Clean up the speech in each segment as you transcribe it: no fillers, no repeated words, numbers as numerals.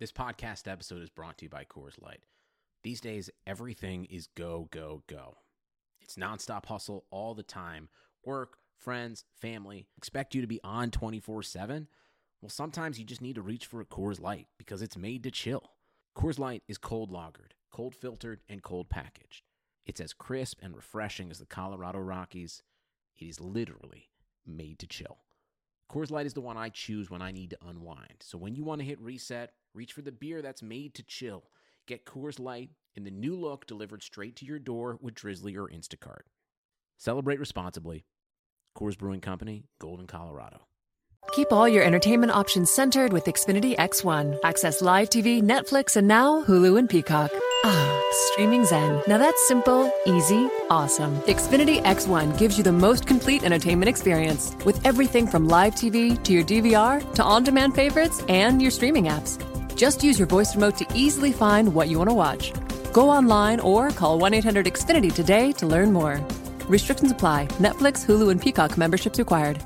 This podcast episode is brought to you by Coors Light. These days, everything is go, go, go. It's nonstop hustle all the time. Work, friends, family, expect you to be on 24/7. Well, sometimes you just need to reach for a Coors Light because it's made to chill. Coors Light is cold lagered, cold filtered, and cold packaged. It's as crisp and refreshing as the Colorado Rockies. It is literally made to chill. Coors Light is the one I choose when I need to unwind. So when you want to hit reset, reach for the beer that's made to chill. Get Coors Light in the new look delivered straight to your door with Drizzly or Instacart. Celebrate responsibly. Coors Brewing Company, Golden, Colorado. Keep all your entertainment options centered with Xfinity X1. Access live TV, Netflix, and now Hulu and Peacock. Ah, streaming zen. Now that's simple, easy, awesome. Xfinity X1 gives you the most complete entertainment experience with everything from live TV to your DVR to on-demand favorites and your streaming apps. Just use your voice remote to easily find what you want to watch. Go online or call 1-800-XFINITY today to learn more. Restrictions apply. Netflix, Hulu, and Peacock memberships required.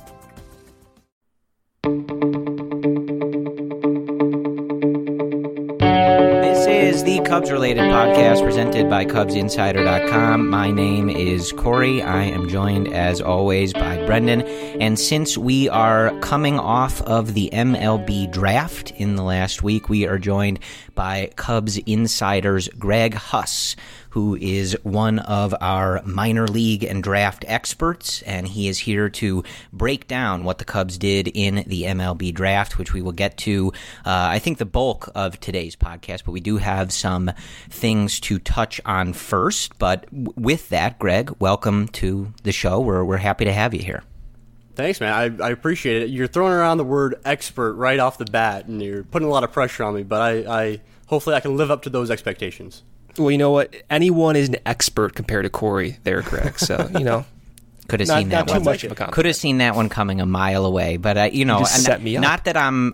This is the Cubs-related podcast presented by CubsInsider.com. My name is Corey. I am joined, as always, by Brendan. And since we are coming off of the MLB draft in the last week, we are joined by Cubs Insider's Greg Huss, who is one of our minor league and draft experts, and he is here to break down what the Cubs did in the MLB draft, which we will get to, I think, the bulk of today's podcast, but we do have some things to touch on first. But with that, Greg, welcome to the show. We're happy to have you here. Thanks, man. I appreciate it. You're throwing around the word expert right off the bat, and you're putting a lot of pressure on me, but I hopefully I can live up to those expectations. Well, you know what? Anyone is an expert compared to Corey there, Greg. So, you know, could have seen that not one. Too much of a compliment. Could have seen that one coming a mile away. But you just set me up. Not that I'm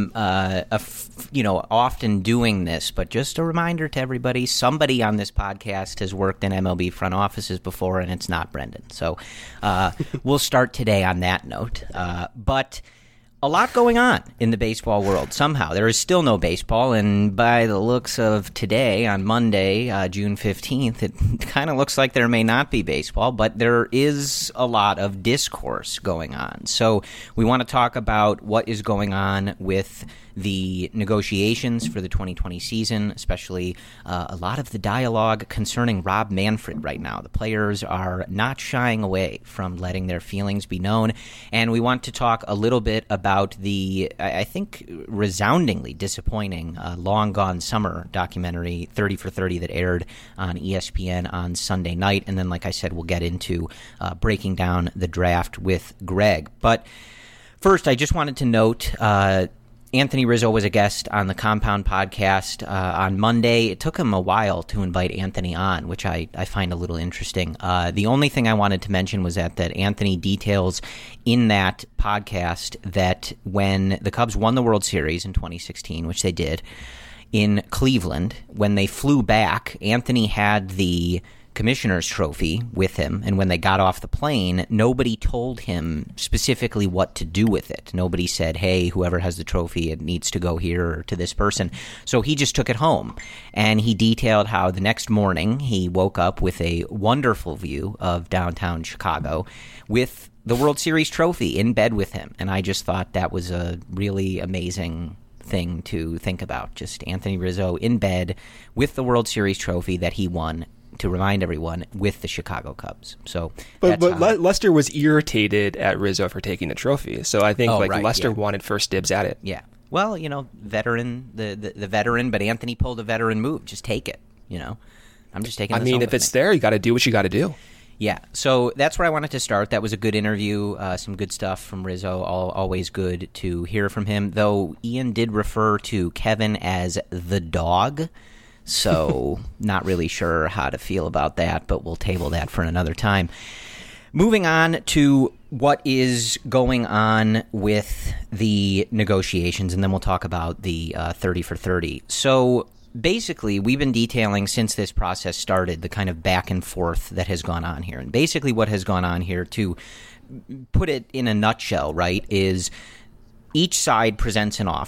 often doing this, but just a reminder to everybody: somebody on this podcast has worked in MLB front offices before, and it's not Brendan. So we'll start today on that note. But a lot going on in the baseball world. Somehow there is still no baseball, and by the looks of today, on Monday, June 15th, it kind of looks like there may not be baseball, but there is a lot of discourse going on. So we want to talk about what is going on with the negotiations for the 2020 season, especially a lot of the dialogue concerning Rob Manfred right now. The players are not shying away from letting their feelings be known, and we want to talk a little bit about the, I think, resoundingly disappointing Long Gone Summer documentary, 30 for 30, that aired on ESPN on Sunday night, and then, like I said, we'll get into breaking down the draft with Greg. But first, I just wanted to note Anthony Rizzo was a guest on the Compound podcast on Monday. It took him a while to invite Anthony on, which I find a little interesting. The only thing I wanted to mention was that Anthony details in that podcast that when the Cubs won the World Series in 2016, which they did, in Cleveland, when they flew back, Anthony had the commissioner's trophy with him, and when they got off the plane, nobody told him specifically what to do with it. Nobody said, hey, whoever has the trophy, it needs to go here or to this person. So he just took it home, and he detailed how the next morning he woke up with a wonderful view of downtown Chicago with the World Series trophy in bed with him. And I just thought that was a really amazing thing to think about. Just Anthony Rizzo in bed with the World Series trophy that he won, to remind everyone, with the Chicago Cubs. So, but Lester was irritated at Rizzo for taking the trophy. So I think Lester wanted first dibs at it. Yeah. Well, veteran, the veteran, but Anthony pulled a veteran move. Just take it. I'm just taking. If it's there, you got to do what you got to do. Yeah. So that's where I wanted to start. That was a good interview. Some good stuff from Rizzo. Always good to hear from him. Though Ian did refer to Kevin as the dog. So not really sure how to feel about that, but we'll table that for another time. Moving on to what is going on with the negotiations, and then we'll talk about the 30 for 30. So basically, we've been detailing since this process started the kind of back and forth that has gone on here. And basically what has gone on here, to put it in a nutshell, right, is each side presents an offer,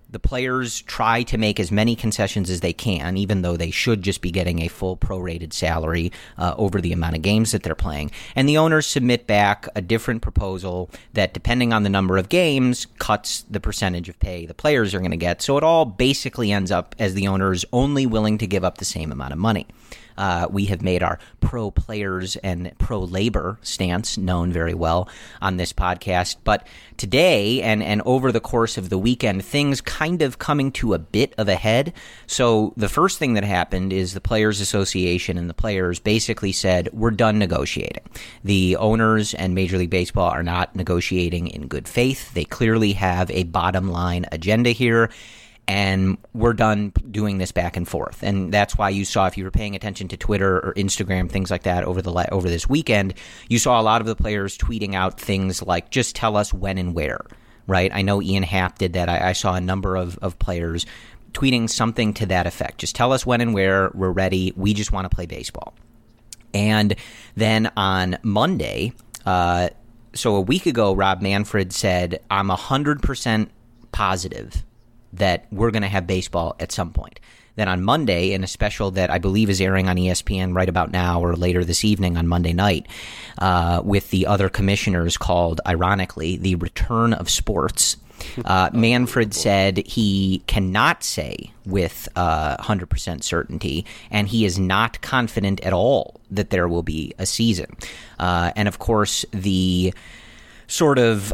The players try to make as many concessions as they can, even though they should just be getting a full prorated salary over the amount of games that they're playing. And the owners submit back a different proposal that, depending on the number of games, cuts the percentage of pay the players are going to get. So it all basically ends up as the owners only willing to give up the same amount of money. We have made our pro-players and pro-labor stance known very well on this podcast. But today and over the course of the weekend, things kind of coming to a bit of a head. So the first thing that happened is the Players Association and the players basically said, we're done negotiating. The owners and Major League Baseball are not negotiating in good faith. They clearly have a bottom line agenda here. And we're done doing this back and forth. And that's why you saw, if you were paying attention to Twitter or Instagram, things like that over this weekend, you saw a lot of the players tweeting out things like, just tell us when and where, right? I know Ian Happ did that. I saw a number of players tweeting something to that effect. Just tell us when and where, we're ready, we just want to play baseball. And then on Monday, so a week ago, Rob Manfred said, I'm 100% positive that we're going to have baseball at some point. Then on Monday, in a special that I believe is airing on ESPN right about now or later this evening on Monday night, with the other commissioners called, ironically, The Return of Sports, Manfred said he cannot say with 100% certainty, and he is not confident at all that there will be a season. And of course, the sort of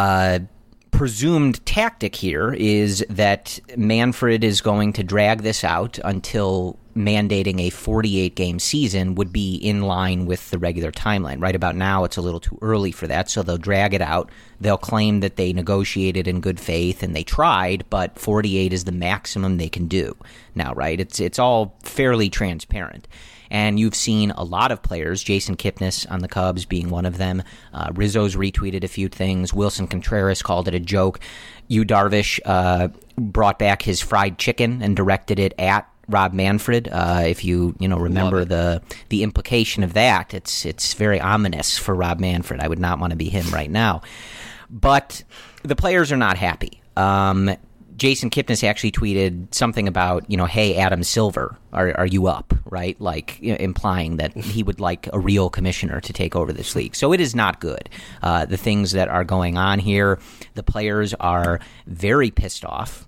presumed tactic here is that Manfred is going to drag this out until mandating a 48-game season would be in line with the regular timeline. Right about now, it's a little too early for that, so they'll drag it out. They'll claim that they negotiated in good faith and they tried, but 48 is the maximum they can do now, right? It's all fairly transparent. And you've seen a lot of players, Jason Kipnis on the Cubs being one of them. Rizzo's retweeted a few things. Wilson Contreras called it a joke. Yu Darvish brought back his fried chicken and directed it at Rob Manfred. If you remember the implication of that, it's very ominous for Rob Manfred. I would not want to be him right now. But the players are not happy. Jason Kipnis actually tweeted something about, hey, Adam Silver, are you up, right? Like, implying that he would like a real commissioner to take over this league. So it is not good. The things that are going on here, the players are very pissed off.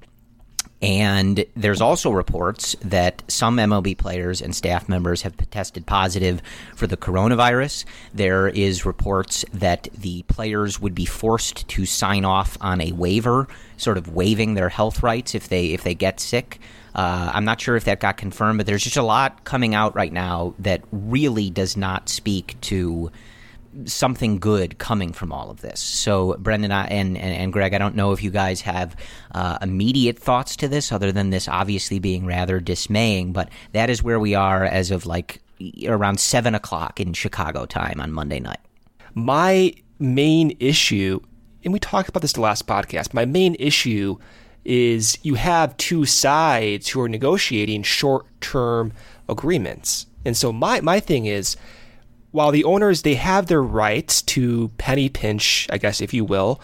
And there's also reports that some MLB players and staff members have tested positive for the coronavirus. There is reports that the players would be forced to sign off on a waiver, sort of waiving their health rights if they get sick. I'm not sure if that got confirmed, but there's just a lot coming out right now that really does not speak to something good coming from all of this. So, Brendan and Greg, I don't know if you guys have immediate thoughts to this, other than this obviously being rather dismaying, but that is where we are as of like around 7 o'clock in Chicago time on Monday night. My main issue, and we talked about this the last podcast, my main issue is you have two sides who are negotiating short-term agreements. And so my thing is, while the owners, they have their rights to penny pinch, I guess, if you will,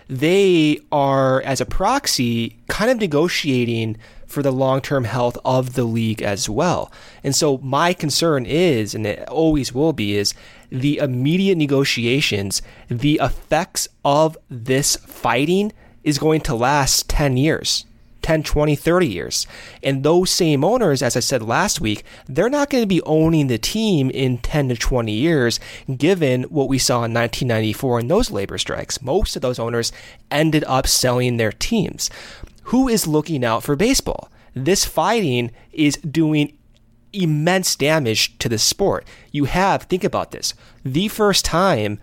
they are, as a proxy, kind of negotiating for the long-term health of the league as well. And so my concern is, and it always will be, is the immediate negotiations, the effects of this fighting is going to last 10 years. 10, 20, 30 years. And those same owners, as I said last week, they're not going to be owning the team in 10 to 20 years, given what we saw in 1994 in those labor strikes. Most of those owners ended up selling their teams. Who is looking out for baseball? This fighting is doing immense damage to the sport. You have, think about this, the first time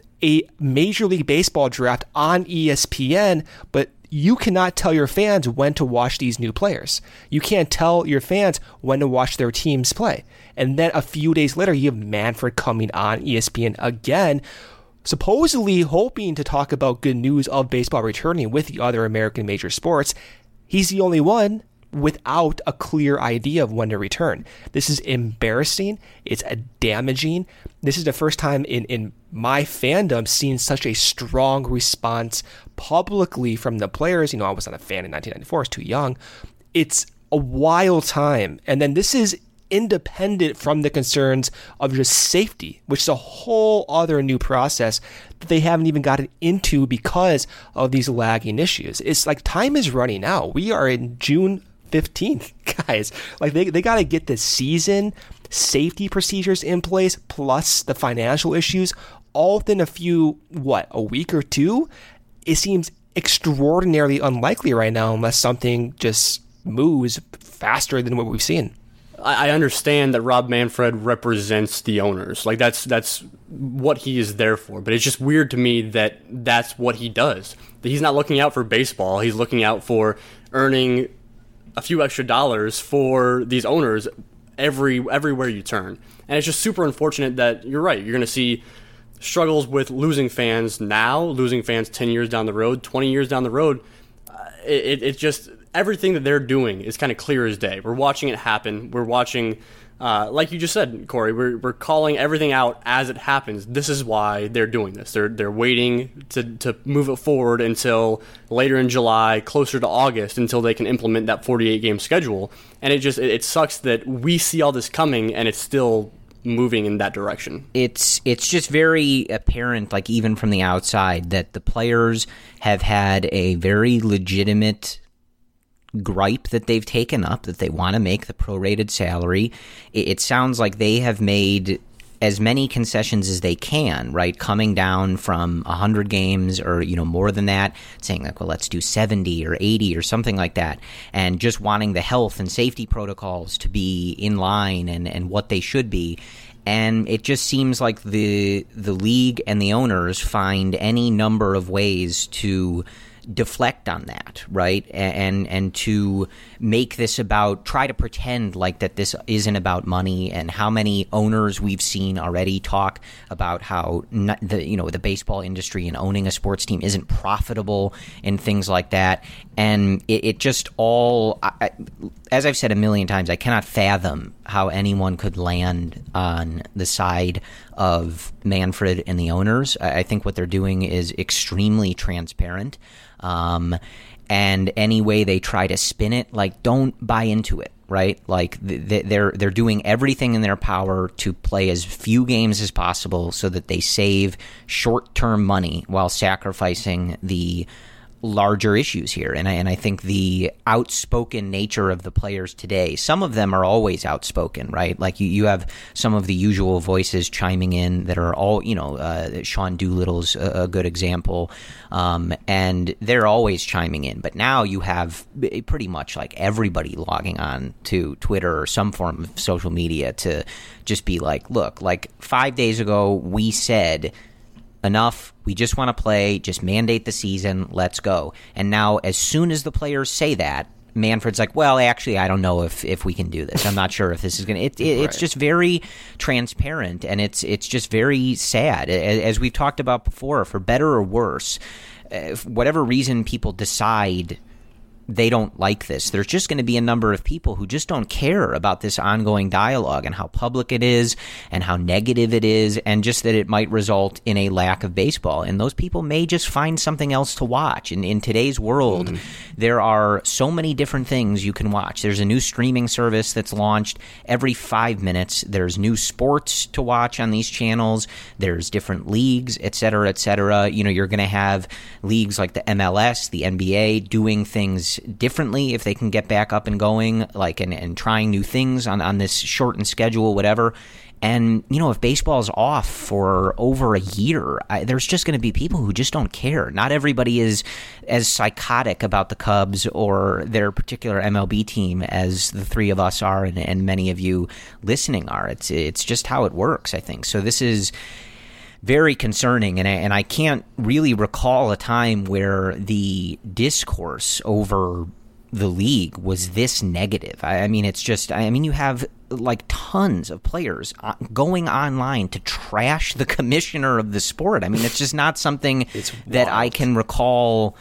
a Major League Baseball draft on ESPN, but you cannot tell your fans when to watch these new players. You can't tell your fans when to watch their teams play. And then a few days later, you have Manfred coming on ESPN again, supposedly hoping to talk about good news of baseball returning with the other American major sports. He's the only one without a clear idea of when to return. This is embarrassing. It's damaging. This is the first time in my fandom seeing such a strong response publicly from the players. I was not a fan in 1994. I was too young. It's a wild time. And then this is independent from the concerns of just safety, which is a whole other new process that they haven't even gotten into because of these lagging issues. It's like time is running out. We are in June 15th, guys. Like they got to get the season safety procedures in place, plus the financial issues, all within a week or two. It seems extraordinarily unlikely right now unless something just moves faster than what we've seen. I understand that Rob Manfred represents the owners. Like that's what he is there for. But it's just weird to me that that's what he does. That he's not looking out for baseball. He's looking out for earning a few extra dollars for these owners everywhere you turn. And it's just super unfortunate that you're right. You're going to see struggles with losing fans now, losing fans 10 years down the road, 20 years down the road. It just, everything that they're doing is kind of clear as day. We're watching it happen. We're watching, like you just said, Corey, we're calling everything out as it happens. This is why they're doing this. They're waiting to move it forward until later in July, closer to August, until they can implement that 48-game schedule. And it sucks that we see all this coming and it's still moving in that direction. It's just very apparent, like even from the outside, that the players have had a very legitimate gripe that they've taken up, that they want to make the prorated salary. It sounds like they have made as many concessions as they can, right? Coming down from 100 games or, more than that, saying like, well, let's do 70 or 80 or something like that, and just wanting the health and safety protocols to be in line and what they should be. And it just seems like the league and the owners find any number of ways to deflect on that, right? And to make this about, try to pretend like that this isn't about money. And how many owners we've seen already talk about how the baseball industry and owning a sports team isn't profitable and things like that. And it just all, as I've said a million times, I cannot fathom how anyone could land on the side of Manfred and the owners. I think what they're doing is extremely transparent. And any way they try to spin it, like, don't buy into it, right? Like they're doing everything in their power to play as few games as possible so that they save short-term money while sacrificing the larger issues here. And I think the outspoken nature of the players today, some of them are always outspoken, right? Like you have some of the usual voices chiming in that are all, Sean Doolittle's a good example. And they're always chiming in. But now you have pretty much like everybody logging on to Twitter or some form of social media to just be like, look, like 5 days ago we said, enough, we just want to play, just mandate the season, let's go. And now as soon as the players say that, Manfred's like, well, actually, I don't know if we can do this. I'm not sure if this is going to... It's just very transparent, and it's just very sad. As we've talked about before, for better or worse, whatever reason people decide they don't like this, there's just going to be a number of people who just don't care about this ongoing dialogue and how public it is and how negative it is, and just that it might result in a lack of baseball. And those people may just find something else to watch. And in today's world, there are so many different things you can watch. There's a new streaming service that's launched every 5 minutes. There's new sports to watch on these channels. There's different leagues, et cetera, et cetera. You're going to have leagues like the MLS, the NBA, doing things differently if they can get back up and going, like and trying new things on this shortened schedule, whatever. And if baseball's off for over a year, there's just going to be people who just don't care. Not everybody is as psychotic about the Cubs or their particular MLB team as the three of us are, and many of you listening are. It's just how it works, I think. So this is very concerning, and I can't really recall a time where the discourse over the league was this negative. I mean, you have like tons of players going online to trash the commissioner of the sport. I mean, it's just not something that I can recall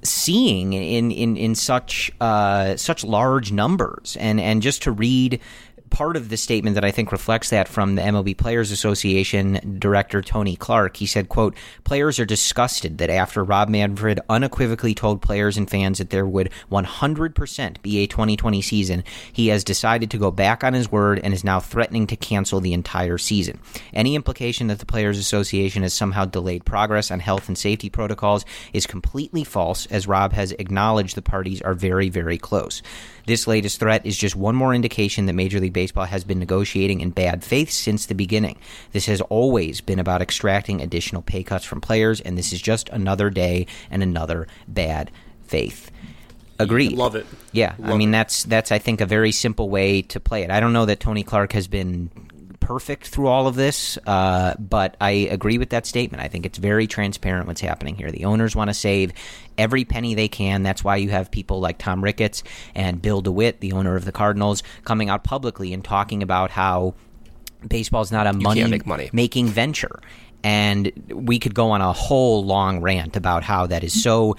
seeing in such large numbers. And just to read part of the statement that I think reflects that from the MLB Players Association director Tony Clark, he said, quote, "Players are disgusted that after Rob Manfred unequivocally told players and fans that there would 100% be a 2020 season, he has decided to go back on his word and is now threatening to cancel the entire season. Any implication that the Players Association has somehow delayed progress on health and safety protocols is completely false, as Rob has acknowledged the parties are very, very close. This latest threat is just one more indication that Major League Baseball has been negotiating in bad faith since the beginning. This has always been about extracting additional pay cuts from players, and this is just another day and another bad faith." Agreed. Love it. Yeah, I mean, that's I think a very simple way to play it. I don't know that Tony Clark has been perfect through all of this, but I agree with that statement. I think it's very transparent what's happening here. The owners want to save every penny they can. That's why you have people like Tom Ricketts and Bill DeWitt, the owner of the Cardinals, coming out publicly and talking about how baseball is not a money-making venture. And we could go on a whole long rant about how that is so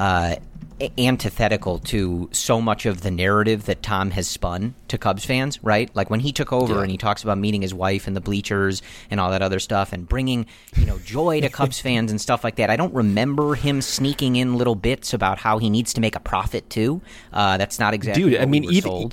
antithetical to so much of the narrative that Tom has spun to Cubs fans, right? Like when he took over and he talks about meeting his wife in the bleachers and all that other stuff and bringing, joy to Cubs fans and stuff like that. I don't remember him sneaking in little bits about how he needs to make a profit too. That's not exactly what we were sold.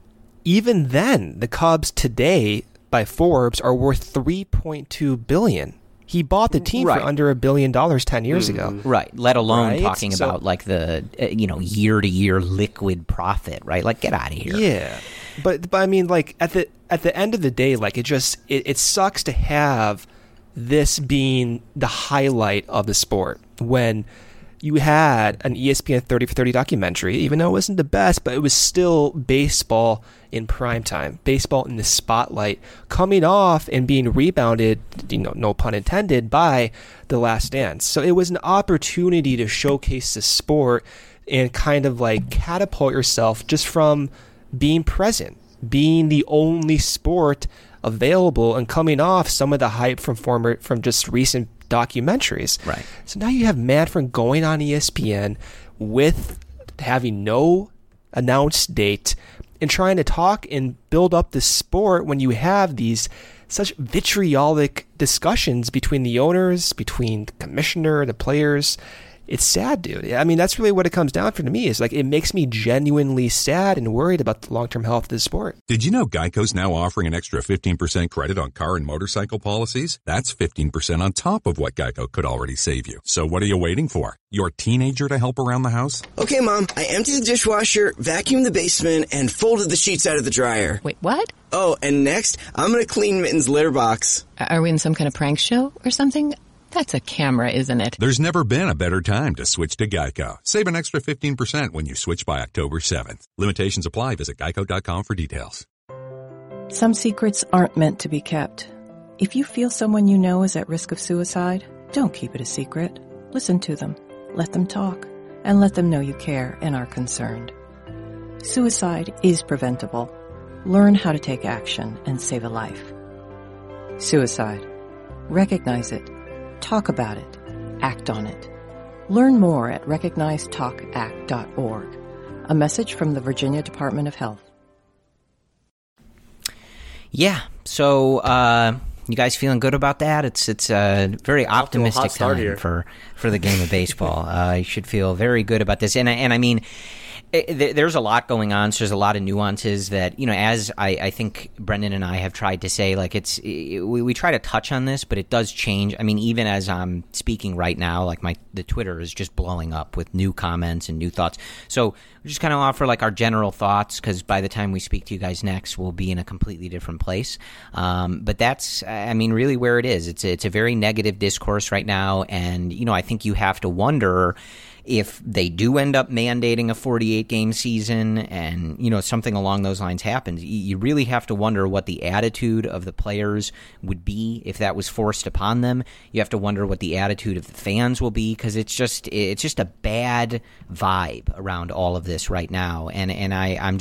Even then, the Cubs today by Forbes are worth $3.2 billion. He bought the team for under $1 billion 10 years ago. Right, let alone talking about like the year-to-year liquid profit, right? Like, get out of here. Yeah, but I mean, like at the end of the day, like it sucks to have this being the highlight of the sport when you had an ESPN 30 for 30 documentary, even though it wasn't the best, but it was still baseball in prime time, baseball in the spotlight, coming off and being rebounded, no pun intended, by The Last Dance. So it was an opportunity to showcase the sport and kind of like catapult yourself just from being present, being the only sport available and coming off some of the hype from just recent documentaries. Right. So now you have Manfred going on ESPN with having no announced date and trying to talk and build up the sport when you have these such vitriolic discussions between the owners, between the commissioner, the players. It's sad, dude. I mean, that's really what it comes down to me. Is like it makes me genuinely sad and worried about the long-term health of the sport. Did you know Geico's now offering an extra 15% credit on car and motorcycle policies? That's 15% on top of what Geico could already save you. So what are you waiting for? Your teenager to help around the house? Okay, Mom, I emptied the dishwasher, vacuumed the basement, and folded the sheets out of the dryer. Wait, what? Oh, and next, I'm going to clean Mitten's litter box. Are we in some kind of prank show or something? That's a camera, isn't it? There's never been a better time to switch to Geico. Save an extra 15% when you switch by October 7th. Limitations apply. Visit geico.com for details. Some secrets aren't meant to be kept. If you feel someone you know is at risk of suicide, don't keep it a secret. Listen to them, let them talk, and let them know you care and are concerned. Suicide is preventable. Learn how to take action and save a life. Suicide. Recognize it. Talk about it. Act on it. Learn more at recognizetalkact.org. A message from the Virginia Department of Health. Yeah, so you guys feeling good about that? It's a very optimistic time for the game of baseball. You should feel very good about this. And I mean, there's a lot going on, so there's a lot of nuances that, as I think Brendan and I have tried to say, like we try to touch on this, but it does change. I mean, even as I'm speaking right now, like the Twitter is just blowing up with new comments and new thoughts. So we just kind of offer like our general thoughts, because by the time we speak to you guys next, we'll be in a completely different place. But that's, I mean, really where it is. It's a very negative discourse right now, and I think you have to wonder if they do end up mandating a 48-game season and, something along those lines happens, you really have to wonder what the attitude of the players would be if that was forced upon them. You have to wonder what the attitude of the fans will be, because it's just a bad vibe around all of this right now. And I'm just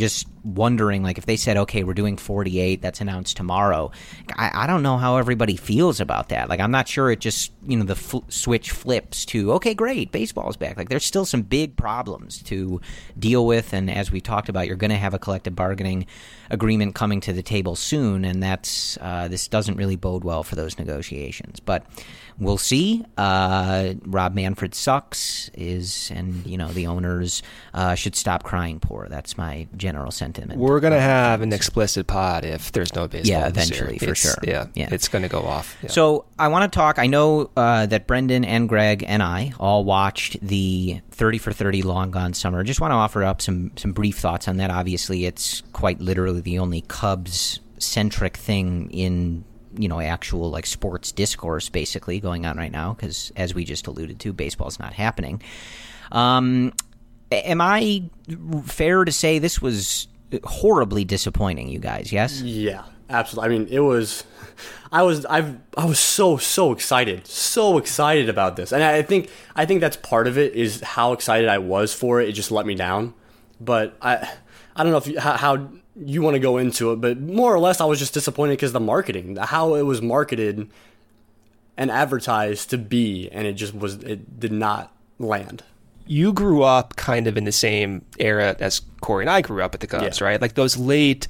wondering, like, if they said, okay, we're doing 48, that's announced tomorrow, I don't know how everybody feels about that. Like, I'm not sure it just, the switch flips to, okay, great, baseball's back. Like, there's still some big problems to deal with, and as we talked about, you're going to have a collective bargaining agreement coming to the table soon, and that's this doesn't really bode well for those negotiations. But we'll see. Rob Manfred sucks, and the owners should stop crying poor. That's my general sentiment. We're going to have an explicit pod if there's no baseball. Yeah, eventually, for sure. Yeah, it's going to go off. Yeah. So I want to talk. I know that Brendan and Greg and I all watched the 30 for 30 Long Gone Summer. Just want to offer up some brief thoughts on that. Obviously, it's quite literally the only Cubs-centric thing in actual like sports discourse basically going on right now, because as we just alluded to, baseball's not happening. Am I fair to say this was horribly disappointing, you guys? Yes? Yeah, absolutely. I mean, it was. I was so excited about this, and I think that's part of it, is how excited I was for it. It just let me down, but I don't know how you want to go into it, but more or less I was just disappointed because the marketing, how it was marketed and advertised to be, and it did not land. You grew up kind of in the same era as Corey and I grew up at the Cubs, right? Like those late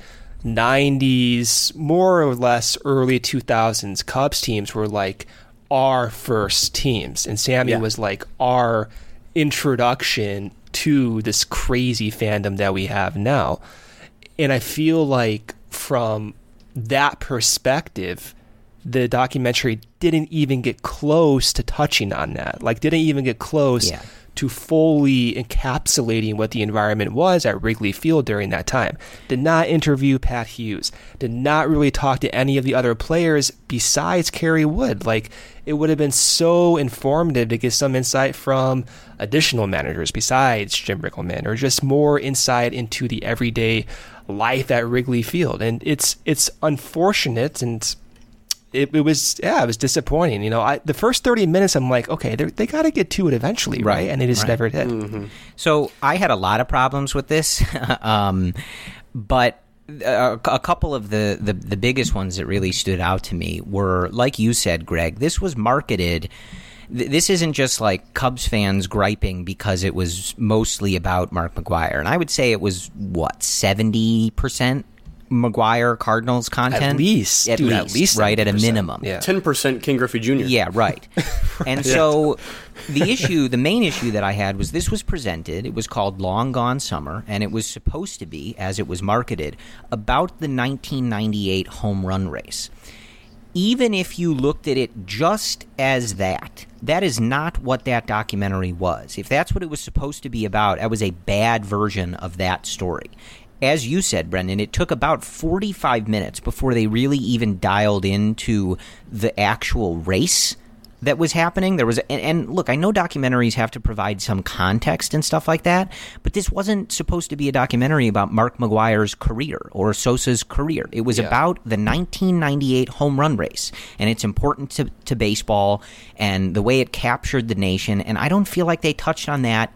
90s, more or less early 2000s Cubs teams were like our first teams, and Sammy was like our introduction to this crazy fandom that we have now. And I feel like from that perspective, the documentary didn't even get close to touching on that. Like, didn't even get close to fully encapsulating what the environment was at Wrigley Field during that time. Did not interview Pat Hughes. Did not really talk to any of the other players besides Kerry Wood. Like, it would have been so informative to get some insight from additional managers besides Jim Rickleman, or just more insight into the everyday life at Wrigley Field. And it's unfortunate, and it was disappointing. The first 30 minutes, I'm like, okay, they got to get to it eventually, right? And they just never did. Mm-hmm. So I had a lot of problems with this, but a couple of the biggest ones that really stood out to me were, like you said, Greg, this was marketed. This isn't just like Cubs fans griping because it was mostly about Mark McGwire. And I would say it was, 70% McGwire Cardinals content? At least, right, at a minimum. Yeah. 10% King Griffey Jr. Yeah, right. And so the main issue that I had was this was presented, it was called Long Gone Summer, and it was supposed to be, as it was marketed, about the 1998 home run race. Even if you looked at it just as that is not what that documentary was. If that's what it was supposed to be about, that was a bad version of that story. As you said, Brendan, it took about 45 minutes before they really even dialed into the actual race that was happening. There was, and look, I know documentaries have to provide some context and stuff like that, but this wasn't supposed to be a documentary about Mark McGwire's career or Sosa's career. It was about the 1998 home run race, and it's important to baseball and the way it captured the nation, and I don't feel like they touched on that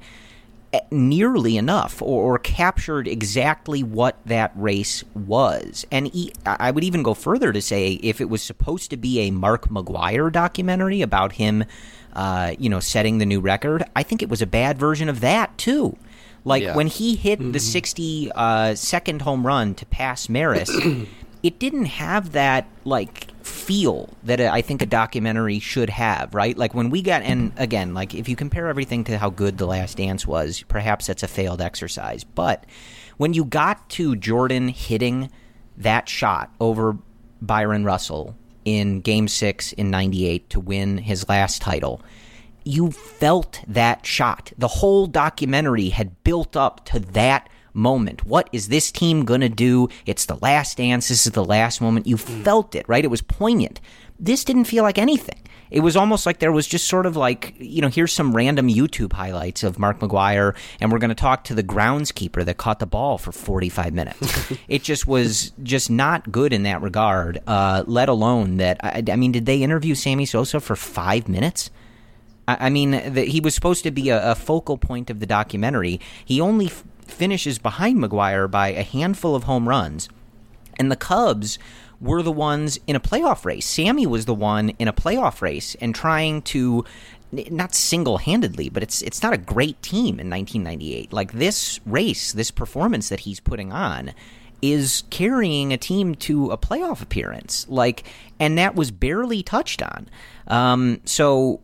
nearly enough or captured exactly what that race was. And I would even go further to say, if it was supposed to be a Mark McGwire documentary about him setting the new record, I think it was a bad version of that too. Like when he hit the 60-second home run to pass Maris, it didn't have that like feel that I think a documentary should have, right? Like when we got, and again, like if you compare everything to how good The Last Dance was, perhaps that's a failed exercise. But when you got to Jordan hitting that shot over Byron Russell in Game 6 in 98 to win his last title, you felt that shot. The whole documentary had built up to that moment. What is this team going to do? It's the last dance. This is the last moment. You felt it, right? It was poignant. This didn't feel like anything. It was almost like there was just sort of like, here's some random YouTube highlights of Mark McGwire, and we're going to talk to the groundskeeper that caught the ball for 45 minutes. It just was just not good in that regard, let alone that, I mean, did they interview Sammy Sosa for 5 minutes? I mean, he was supposed to be a focal point of the documentary. He only finishes behind McGwire by a handful of home runs. And the Cubs were the ones in a playoff race. Sammy was the one in a playoff race and trying to, not single-handedly, but it's not a great team in 1998. Like, this race, this performance that he's putting on is carrying a team to a playoff appearance. Like, and that was barely touched on. So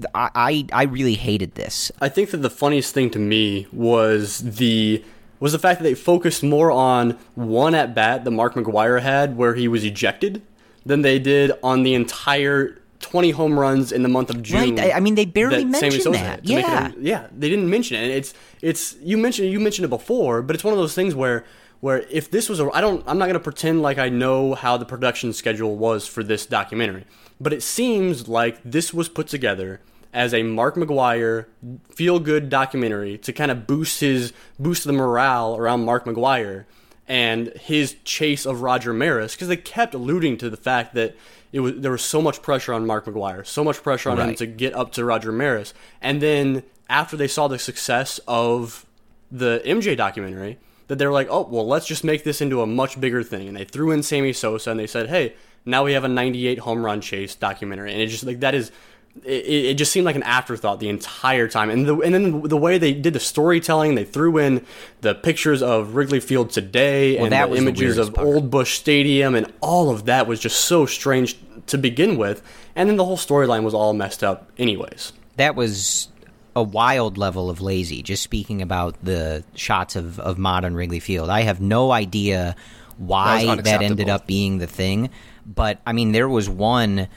I really hated this. I think that the funniest thing to me was the fact that they focused more on one at-bat that Mark McGwire had where he was ejected than they did on the entire 20 home runs in the month of June. Right. I mean, they barely mentioned that. Yeah. Yeah, they didn't mention it. And it's you mentioned it before, but it's one of those things where if this was I'm not going to pretend like I know how the production schedule was for this documentary, but it seems like this was put together as a Mark McGwire feel-good documentary to kind of boost the morale around Mark McGwire and his chase of Roger Maris, because they kept alluding to the fact that there was so much pressure on Mark McGwire, so much pressure on him to get up to Roger Maris. And then after they saw the success of the MJ documentary, that they were like, oh, well, let's just make this into a much bigger thing. And they threw in Sammy Sosa, and they said, hey, now we have a 98 home run chase documentary. And it just like that is... It just seemed like an afterthought the entire time. And then the way they did the storytelling, they threw in the pictures of Wrigley Field today and the images of Old Busch Stadium, and all of that was just so strange to begin with. And then the whole storyline was all messed up anyways. That was a wild level of lazy, just speaking about the shots of modern Wrigley Field. I have no idea why that ended up being the thing. But, I mean, there was one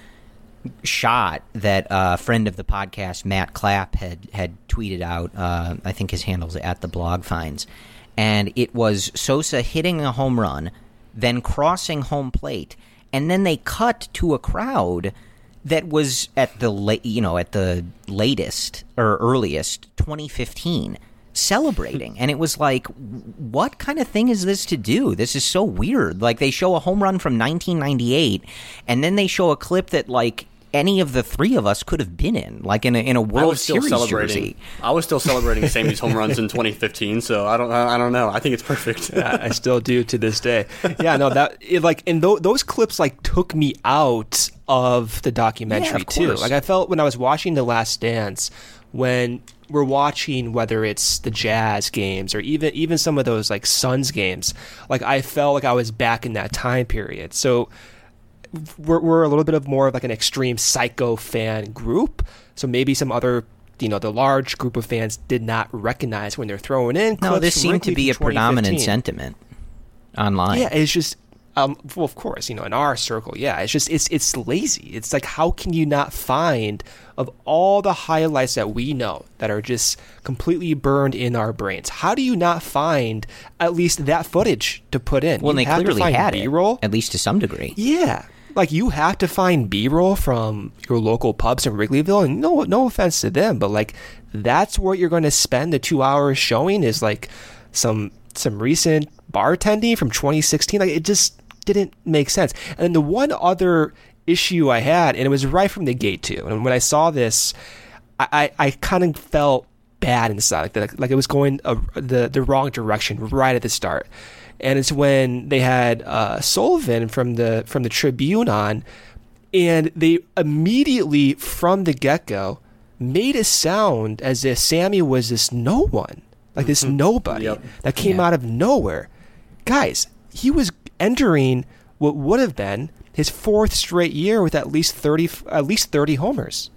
shot that a friend of the podcast, Matt Clapp, had tweeted out. I think his handle's at the blog finds. And it was Sosa hitting a home run, then crossing home plate, and then they cut to a crowd that was at the latest or earliest 2015 celebrating. And it was like, what kind of thing is this to do? This is so weird. Like, they show a home run from 1998, and then they show a clip that, like, any of the three of us could have been in, like in a World Series jersey. I was still celebrating Sammy's home runs in 2015, so I don't know. I think it's perfect. Yeah, I still do to this day. Yeah, no, those clips like took me out of the documentary too. Like, I felt when I was watching The Last Dance, when we're watching whether it's the Jazz games or even some of those like Suns games, like I felt like I was back in that time period. So we're a little bit of more of like an extreme psycho fan group. So maybe some other, the large group of fans did not recognize when they're throwing in clips. No, this seemed to be a predominant sentiment online. Yeah, it's just, well, of course, in our circle, yeah, it's just, it's lazy. It's like, how can you not find, of all the highlights that we know that are just completely burned in our brains, how do you not find at least that footage to put in? Well, they clearly had B-roll, at least to some degree. Yeah. Like, you have to find B-roll from your local pubs in Wrigleyville, and no offense to them, but like, that's what you're going to spend the 2 hours showing is like some recent bartending from 2016. Like, it just didn't make sense. And then the one other issue I had, and it was right from the gate too, and when I saw this, I kind of felt bad inside, like it was going the wrong direction right at the start. And it's when they had Sullivan from the Tribune on, and they immediately from the get-go made it sound as if Sammy was this no one, like this nobody that came out of nowhere. Guys, he was entering what would have been his fourth straight year with at least 30 homers.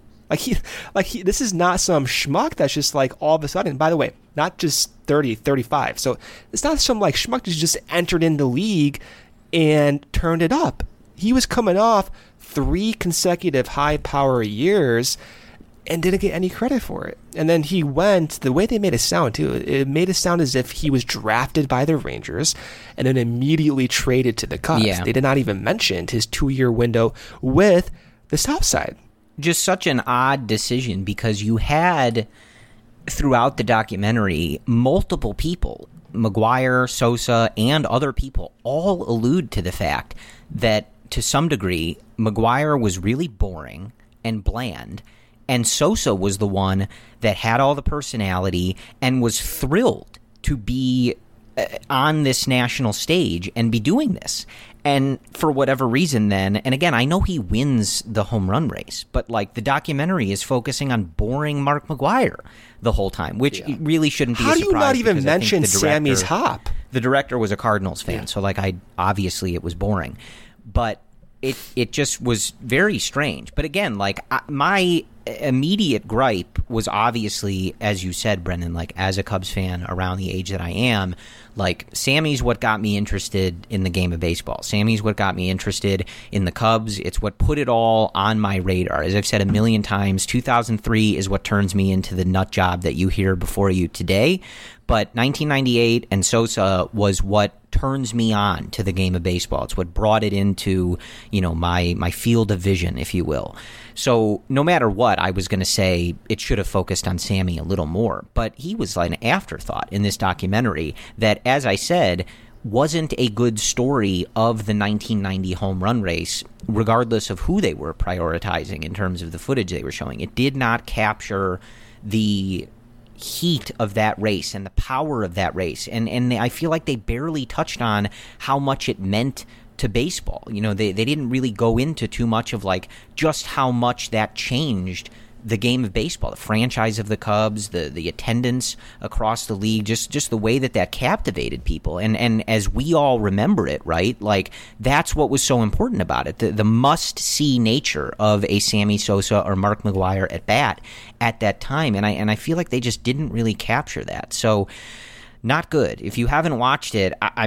This is not some schmuck that's just like all of a sudden, by the way, not just 30, 35. So it's not some like schmuck that just entered in the league and turned it up. He was coming off 3 consecutive high power years and didn't get any credit for it. And then he went, the way they made it sound too, it made it sound as if he was drafted by the Rangers and then immediately traded to the Cubs. Yeah. They did not even mention his 2-year window with the South Side. Just such an odd decision, because you had throughout the documentary multiple people, McGwire, Sosa, and other people, all allude to the fact that to some degree McGwire was really boring and bland, and Sosa was the one that had all the personality and was thrilled to be on this national stage and be doing this. And for whatever reason then, and again, I know he wins the home run race, but like the documentary is focusing on boring Mark McGwire the whole time, which really shouldn't be a surprise. How do you not even mention Sammy's hop? The director was a Cardinals fan, so like obviously it was boring. But it just was very strange. But again, like my immediate gripe was obviously, as you said, Brendan, like as a Cubs fan around the age that I am, like Sammy's what got me interested in the game of baseball. Sammy's what got me interested in the Cubs. It's what put it all on my radar. As I've said a million times, 2003 is what turns me into the nut job that you hear before you today. But 1998 and Sosa was what turns me on to the game of baseball. It's what brought it into, my field of vision, if you will. So no matter what, I was going to say it should have focused on Sammy a little more. But he was like an afterthought in this documentary that, as I said, wasn't a good story of the 1990 home run race, regardless of who they were prioritizing in terms of the footage they were showing. It did not capture the heat of that race and the power of that race. And I feel like they barely touched on how much it meant to baseball. They didn't really go into too much of like just how much that changed the game of baseball, the franchise of the Cubs, the attendance across the league, just the way that captivated people. And as we all remember it, right? Like that's what was so important about it. The must-see nature of a Sammy Sosa or Mark McGwire at bat at that time. And I feel like they just didn't really capture that. So not good. If you haven't watched it, I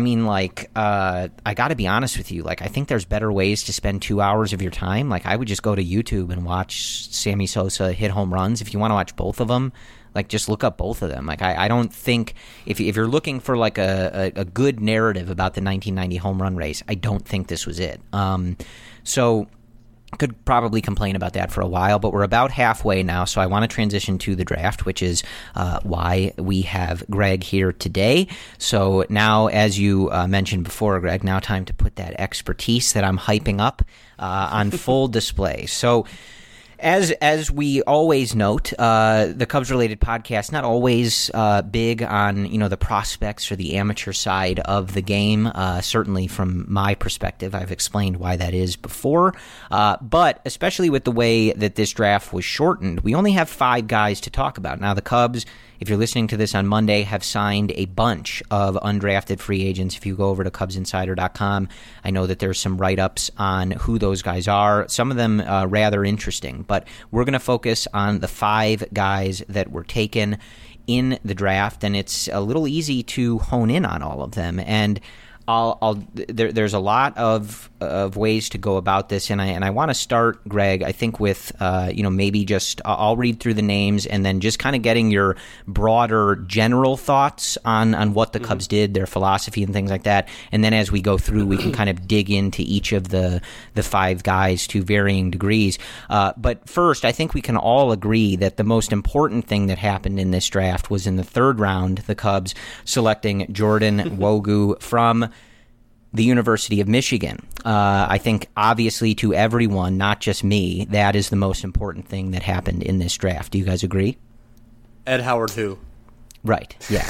got to be honest with you. Like, I think there's better ways to spend 2 hours of your time. Like, I would just go to YouTube and watch Sammy Sosa hit home runs. If you want to watch both of them, like, just look up both of them. Like, I don't think if you're looking for like a good narrative about the 1990 home run race, I don't think this was it. So could probably complain about that for a while, but we're about halfway now, so I want to transition to the draft, which is why we have Greg here today. So now, as you mentioned before, Greg, now time to put that expertise that I'm hyping up on full display. So as we always note, the Cubs-related podcast, not always big on, the prospects or the amateur side of the game. Certainly from my perspective, I've explained why that is before. But especially with the way that this draft was shortened, we only have 5 guys to talk about. Now, the Cubs, if you're listening to this on Monday, have signed a bunch of undrafted free agents. If you go over to CubsInsider.com, I know that there's some write-ups on who those guys are. Some of them rather interesting, but we're going to focus on the 5 guys that were taken in the draft, and it's a little easy to hone in on all of them. And there's a lot of ways to go about this, and I want to start, Greg, I think with maybe just I'll read through the names and then just kind of getting your broader general thoughts on what the Cubs did, their philosophy and things like that, and then as we go through we can kind of dig into each of the 5 guys to varying degrees. But first, I think we can all agree that the most important thing that happened in this draft was in the 3rd round, the Cubs selecting Jordan Nwogu from the University of Michigan. I think, obviously, to everyone, not just me, that is the most important thing that happened in this draft. Do you guys agree? Ed Howard who? Right, yeah.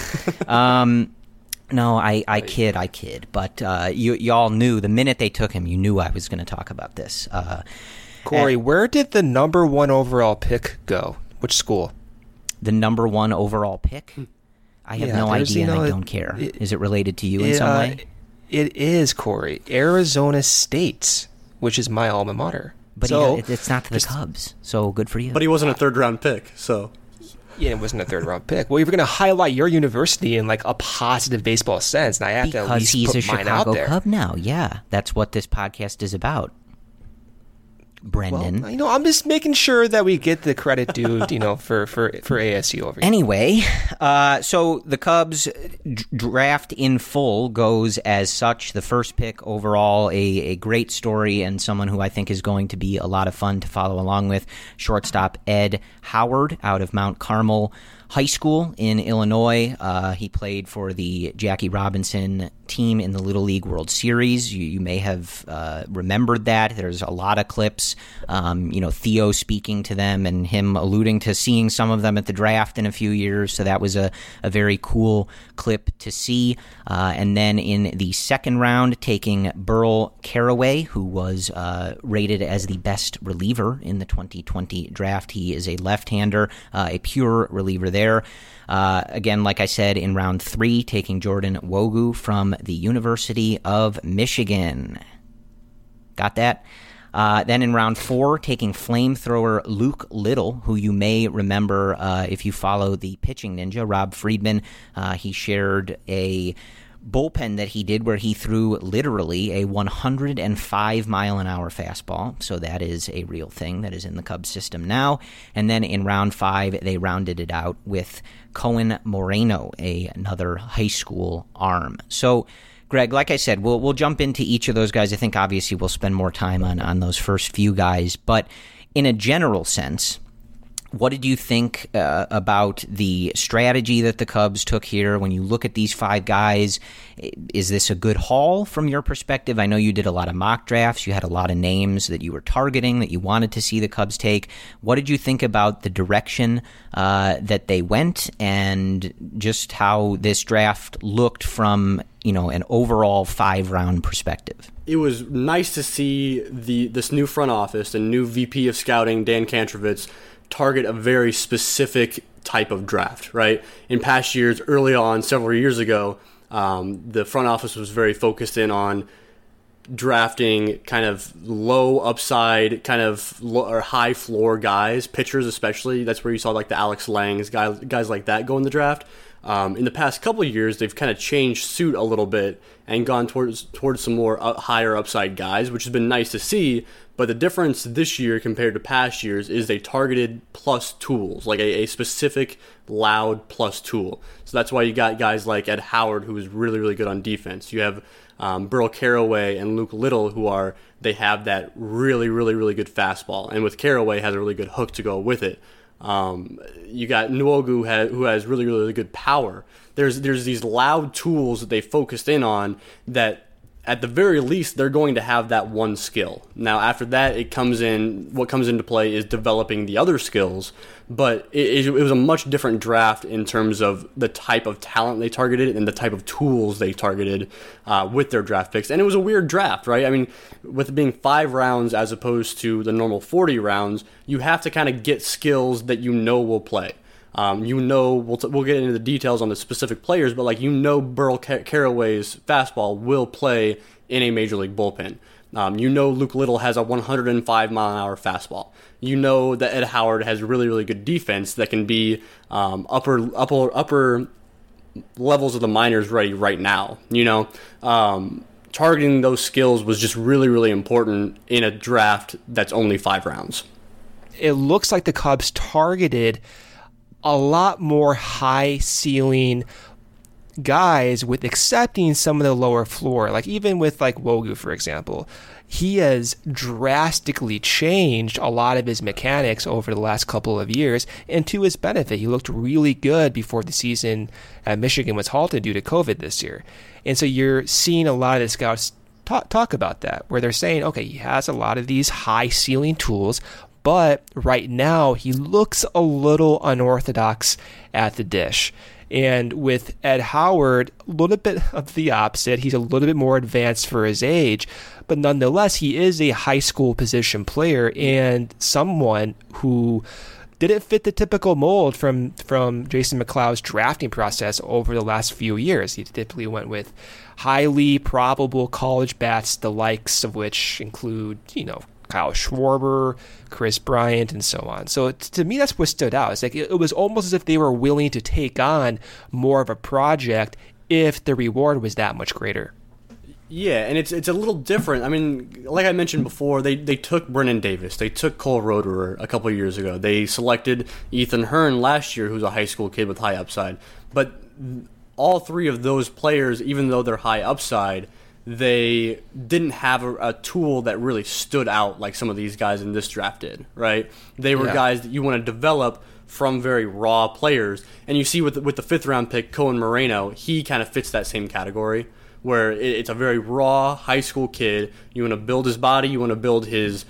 No, I kid. But y'all knew, the minute they took him, you knew I was going to talk about this. Corey, where did the number 1 overall pick go? Which school? The number 1 overall pick? I have no idea, and I don't care. Is it related to you in some way? It is, Corey. Arizona State, which is my alma mater. But it's not the Cubs, so good for you. But he wasn't a 3rd-round pick, so... Yeah, it wasn't a 3rd-round pick. Well, you're going to highlight your university in, like, a positive baseball sense, and I have to at least put mine out there. Because he's a Chicago Cub now, yeah. That's what this podcast is about. Brendan. Well, I'm just making sure that we get the credit due, for ASU over here. Anyway, so the Cubs draft in full goes as such. The first pick overall, a great story and someone who I think is going to be a lot of fun to follow along with. Shortstop Ed Howard out of Mount Carmel High School in Illinois. He played for the Jackie Robinson team in the Little League World Series. You may have remembered that. There's a lot of clips, Theo speaking to them and him alluding to seeing some of them at the draft in a few years. So that was a very cool clip to see. And then in the second round, taking Burl Carraway, who was rated as the best reliever in the 2020 draft. He is a left-hander, a pure reliever there. Again, like I said, in round 3, taking Jordan Wogu from the University of Michigan. Got that? Then in round 4, taking flamethrower Luke Little, who you may remember if you follow the Pitching Ninja, Rob Friedman. He shared a bullpen that he did where he threw literally a 105-mile-an-hour fastball. So that is a real thing that is in the Cubs system now. And then in round 5, they rounded it out with Cohen Moreno, another high school arm. So, Greg, like I said, we'll jump into each of those guys. I think obviously we'll spend more time on those first few guys. But in a general sense, what did you think about the strategy that the Cubs took here? When you look at these 5 guys, is this a good haul from your perspective? I know you did a lot of mock drafts. You had a lot of names that you were targeting, that you wanted to see the Cubs take. What did you think about the direction that they went and just how this draft looked from an overall 5-round perspective? It was nice to see this new front office and new VP of scouting, Dan Kantrovitz, target a very specific type of draft, right? In past years, early on, several years ago, the front office was very focused in on drafting kind of low upside, kind of or high floor guys, pitchers especially. That's where you saw like the Alex Langs, guys like that go in the draft. In the past couple of years, they've kind of changed suit a little bit and gone towards some more higher upside guys, which has been nice to see. But the difference this year compared to past years is they targeted plus tools, like a specific loud plus tool. So that's why you got guys like Ed Howard, who is really, really good on defense. You have Burl Carraway and Luke Little, they have that really, really, really good fastball. And with Carraway, has a really good hook to go with it. You got Nwogu, who has really, really good power. There's these loud tools that they focused in on that, at the very least, they're going to have that one skill. Now, after that, what comes into play is developing the other skills, but it was a much different draft in terms of the type of talent they targeted and the type of tools they targeted with their draft picks. And it was a weird draft, right? I mean, with it being 5 rounds as opposed to the normal 40 rounds, you have to kind of get skills that will play. We'll get into the details on the specific players, but Burl Carraway's fastball will play in a major league bullpen. Luke Little has a 105-mile-an-hour fastball. That Ed Howard has really, really good defense that can be upper levels of the minors ready right now. Targeting those skills was just really, really important in a draft that's only 5 rounds. It looks like the Cubs targeted a lot more high ceiling guys with accepting some of the lower floor. Like even with Wogu, for example, he has drastically changed a lot of his mechanics over the last couple of years, and to his benefit. He looked really good before the season at Michigan was halted due to COVID this year. And so you're seeing a lot of the scouts talk about that, where they're saying, okay, he has a lot of these high ceiling tools, but right now he looks a little unorthodox at the dish. And with Ed Howard, a little bit of the opposite. He's a little bit more advanced for his age, but nonetheless, he is a high school position player and someone who didn't fit the typical mold from Jason McLeod's drafting process over the last few years. He typically went with highly probable college bats, the likes of which include, Kyle Schwarber, Chris Bryant, and so on. So to me, that's what stood out. It's like it was almost as if they were willing to take on more of a project if the reward was that much greater. Yeah, and it's a little different. I mean, like I mentioned before, they took Brennan Davis. They took Cole Roederer a couple of years ago. They selected Ethan Hearn last year, who's a high school kid with high upside. But all 3 of those players, even though they're high upside, they didn't have a tool that really stood out like some of these guys in this draft did, right? They were guys that you want to develop from very raw players. And you see with the 5th round pick, Cohen Moreno, he kind of fits that same category, where it's a very raw high school kid. You want to build his body, you want to build his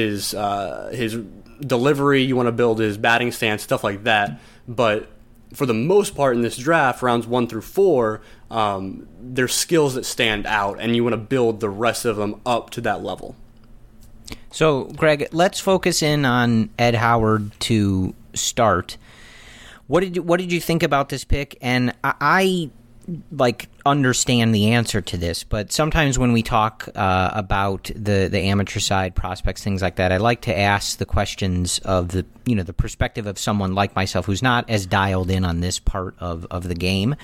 delivery, you want to build his batting stance, stuff like that. But for the most part in this draft, rounds 1 through 4, there's skills that stand out, and you want to build the rest of them up to that level. So, Greg, let's focus in on Ed Howard to start. What did you think about this pick? And I understand the answer to this, but sometimes when we talk about the amateur side, prospects, things like that, I like to ask the questions of the perspective of someone like myself who's not as dialed in on this part of the game.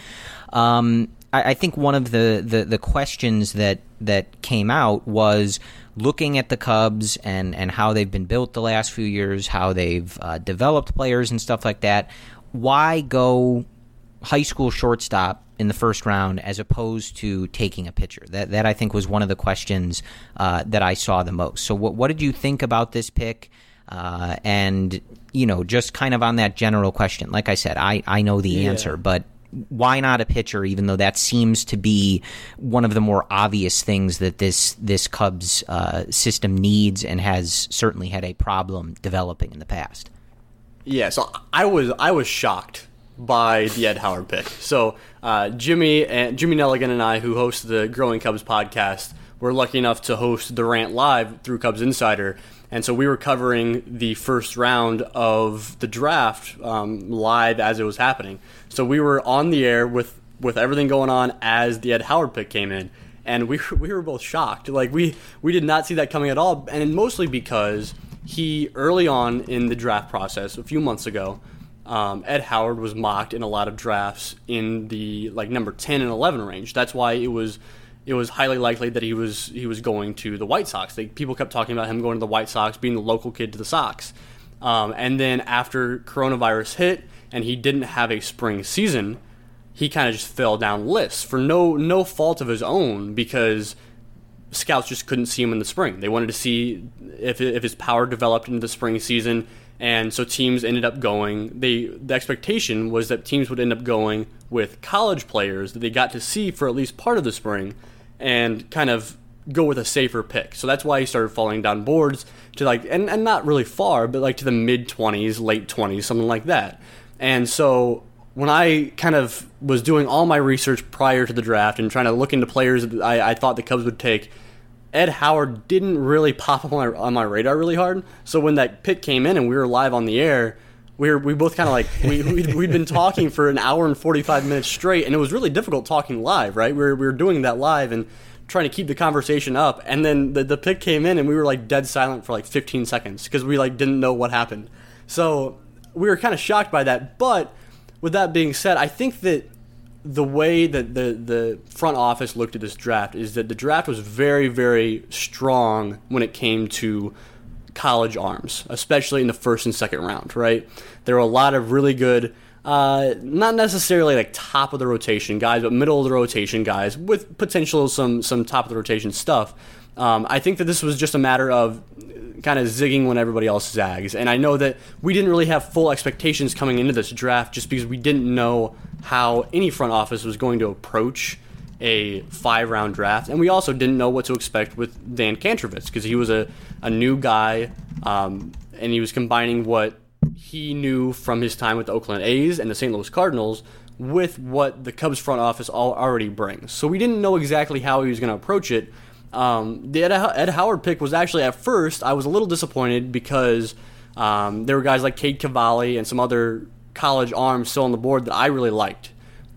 I think one of the questions that came out was looking at the Cubs and how they've been built the last few years, how they've developed players and stuff like that. Why go high school shortstop in the first round as opposed to taking a pitcher? That I think was one of the questions that I saw the most. So what did you think about this pick? And, just kind of on that general question, like I said, I know the answer, but why not a pitcher, even though that seems to be one of the more obvious things that this Cubs system needs and has certainly had a problem developing in the past? Yeah, so I was shocked by the Ed Howard pick. So Jimmy Nelligan and I, who host the Growing Cubs podcast, were lucky enough to host The Rant live through Cubs Insider. And so we were covering the first round of the draft live as it was happening. So we were on the air with everything going on as the Ed Howard pick came in. And we were both shocked. Like, we did not see that coming at all. And mostly because he, early on in the draft process, a few months ago, Ed Howard was mocked in a lot of drafts in the number 10 and 11 range. That's why it was highly likely that he was going to the White Sox. People kept talking about him going to the White Sox, being the local kid to the Sox. And then after coronavirus hit and he didn't have a spring season, he kind of just fell down lists for no fault of his own, because scouts just couldn't see him in the spring. They wanted to see if his power developed into the spring season. And so teams ended up going. The expectation was that teams would end up going with college players that they got to see for at least part of the spring, and kind of go with a safer pick. So that's why he started falling down boards to and not really far, but to the mid-20s, late 20s, something like that. And so when I kind of was doing all my research prior to the draft and trying to look into players that I thought the Cubs would take, Ed Howard didn't really pop up on my radar really hard. So when that pick came in and we were live on the air, we both kind of we'd been talking for an hour and 45 minutes straight, and it was really difficult talking live, right? We were doing that live and trying to keep the conversation up, and then the pick came in and we were dead silent for 15 seconds because we didn't know what happened. So we were kind of shocked by that. But with that being said, I think that the way that the front office looked at this draft is that the draft was very, very strong when it came to college arms, especially in the first and second round, right? There were a lot of really good, not necessarily top of the rotation guys, but middle of the rotation guys with potential some top of the rotation stuff. I think that this was just a matter of kind of zigging when everybody else zags. And I know that we didn't really have full expectations coming into this draft just because we didn't know how any front office was going to approach a 5-round draft. And we also didn't know what to expect with Dan Kantrovitz because he was a new guy, and he was combining what he knew from his time with the Oakland A's and the St. Louis Cardinals with what the Cubs front office already brings. So we didn't know exactly how he was going to approach it. The Ed Howard pick was actually, at first, I was a little disappointed because there were guys like Cade Cavalli and some other college arms still on the board that I really liked.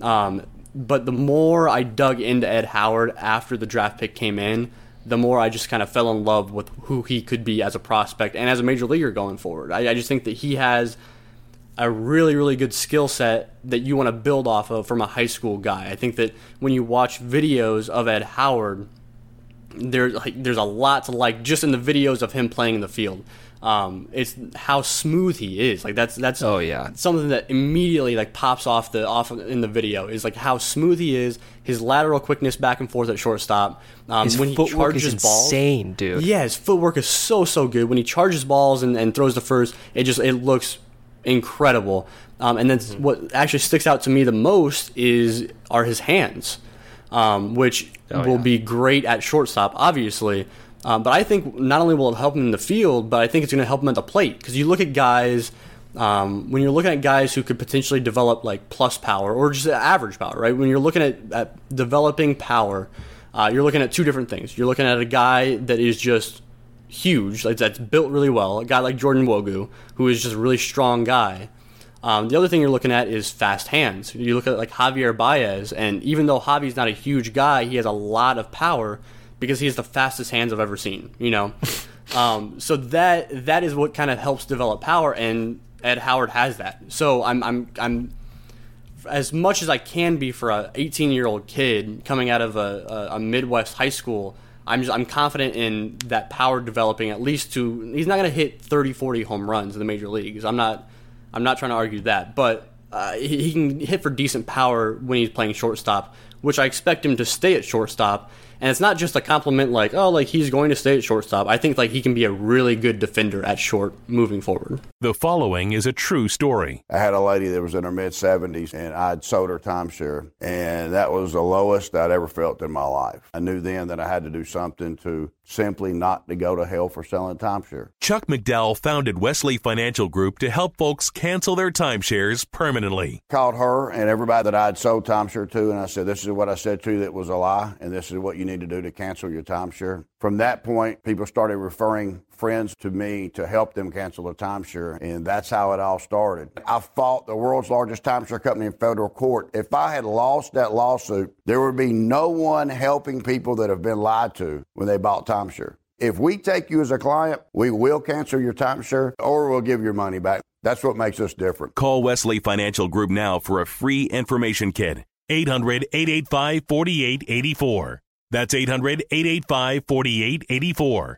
But the more I dug into Ed Howard after the draft pick came in, the more I just kind of fell in love with who he could be as a prospect and as a major leaguer going forward. I just think that he has a really, really good skill set that you want to build off of from a high school guy. I think that when you watch videos of Ed Howard, there's a lot to like just in the videos of him playing in the field. It's how smooth he is. That's oh yeah, something that immediately pops off in the video is how smooth he is. His lateral quickness back and forth at shortstop. His when he footwork charges is balls, insane, dude. Yeah, his footwork is so good. When he charges balls and throws the first, it looks incredible. And then what actually sticks out to me the most are his hands. which will be great at shortstop, obviously. But I think not only will it help him in the field, but I think it's going to help him at the plate. Because you look at guys, when you're looking at guys who could potentially develop like plus power or just average power, right? When you're looking at developing power, you're looking at two different things. You're looking at a guy that is just huge, like that's built really well, a guy like Jordan Wogu, who is just a really strong guy. The other thing you're looking at is fast hands. You look at like Javier Baez, and even though Javi's not a huge guy, he has a lot of power because he has the fastest hands I've ever seen, you know? So that is what kind of helps develop power, and Ed Howard has that. So I'm as much as I can be for a 18-year-old kid coming out of a Midwest high school, I'm confident in that power developing at least to, he's not going to hit 30, 40 home runs in the major leagues. I'm not trying to argue that, but he can hit for decent power when he's playing shortstop, which I expect him to stay at shortstop. And it's not just a compliment like, oh, like he's going to stay at shortstop. I think like he can be a really good defender at short moving forward. The following is a true story. I had a lady that was in her mid-70s, and I'd sold her timeshare, and that was the lowest I'd ever felt in my life. I knew then that I had to do something to simply not to go to hell for selling timeshare. Chuck McDowell founded Wesley Financial Group to help folks cancel their timeshares permanently. Called her and everybody that I'd sold timeshare to, and I said, this is what I said to you that was a lie, and this is what you need to do to cancel your timeshare. From that point, people started referring friends to me to help them cancel their timeshare, and that's how it all started. I fought the world's largest timeshare company in federal court. If I had lost that lawsuit, there would be no one helping people that have been lied to when they bought timeshare. If we take you as a client, we will cancel your timeshare or we'll give your money back. That's what makes us different. Call Wesley Financial Group now for a free information kit. 800-885-4884. That's 800-885-4884.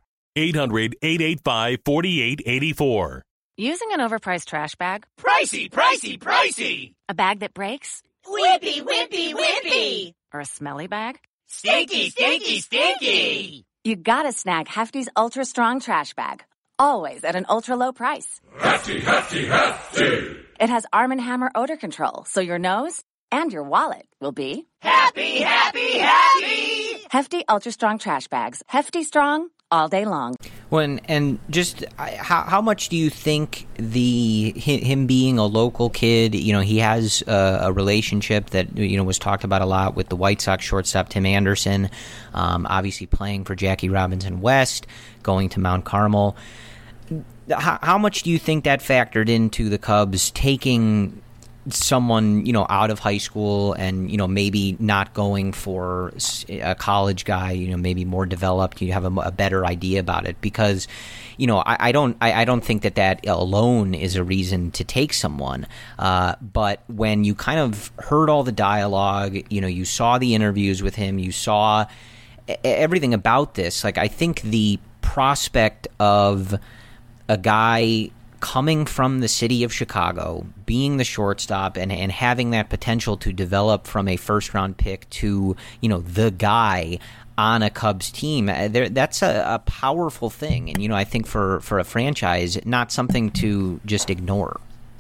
800-885-4884. Using an overpriced trash bag? Pricey, pricey, pricey! A bag that breaks? Whippy, whippy, whippy! Or a smelly bag? Stinky, stinky, stinky! You gotta snag Hefty's Ultra Strong Trash Bag. Always at an ultra low price. Hefty, hefty, hefty! It has Arm & Hammer odor control, so your nose and your wallet will be happy, happy, happy! Hefty Ultra Strong Trash Bags. Hefty strong all day long. When and just how much do you think him being a local kid, you know, he has a relationship that, you know, was talked about a lot with the White Sox shortstop Tim Anderson, obviously playing for Jackie Robinson West, going to Mount Carmel. How much do you think that factored into the Cubs taking someone, you know, out of high school and, you know, maybe not going for a college guy, you know, maybe more developed, you have a better idea about it? Because, you know, I don't think that alone is a reason to take someone. But when you kind of heard all the dialogue, you know, you saw the interviews with him, you saw everything about this, like, I think the prospect of a guy coming from the city of Chicago, being the shortstop, and having that potential to develop from a first-round pick to, you know, the guy on a Cubs team, that's a powerful thing. And, you know, I think for a franchise, not something to just ignore.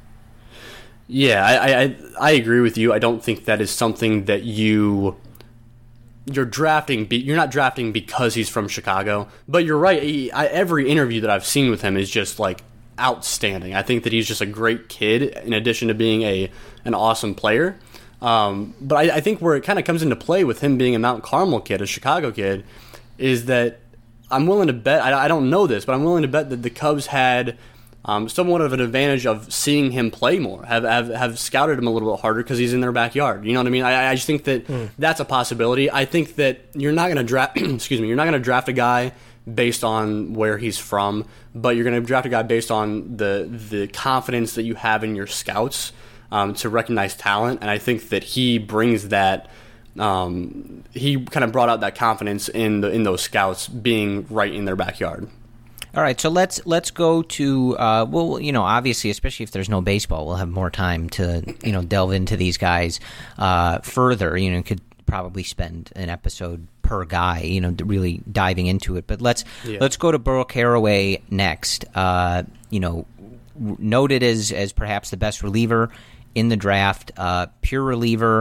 Yeah, I agree with you. I don't think that is something that you're drafting. You're not drafting because he's from Chicago. But you're right. Every interview that I've seen with him is just like outstanding. I think that he's just a great kid in addition to being an awesome player. But I think where it kind of comes into play with him being a Mount Carmel kid, a Chicago kid, is that I'm willing to bet, I don't know this, but I'm willing to bet that the Cubs had somewhat of an advantage of seeing him play more, have scouted him a little bit harder because he's in their backyard. You know what I mean? I just think that that's a possibility. I think that you're not going to draft, you're not going to draft a guy based on where he's from, but you're going to draft a guy based on the confidence that you have in your scouts to recognize talent. And I think that he brings that. He kind of brought out that confidence in those scouts being right in their backyard. All right, so let's go to well, you know, obviously, especially if there's no baseball, we'll have more time to, you know, delve into these guys further. You know, could probably spend an episode per guy, you know, really diving into it. But let's go to Burl Carraway next. You know, noted as perhaps the best reliever in the draft, pure reliever,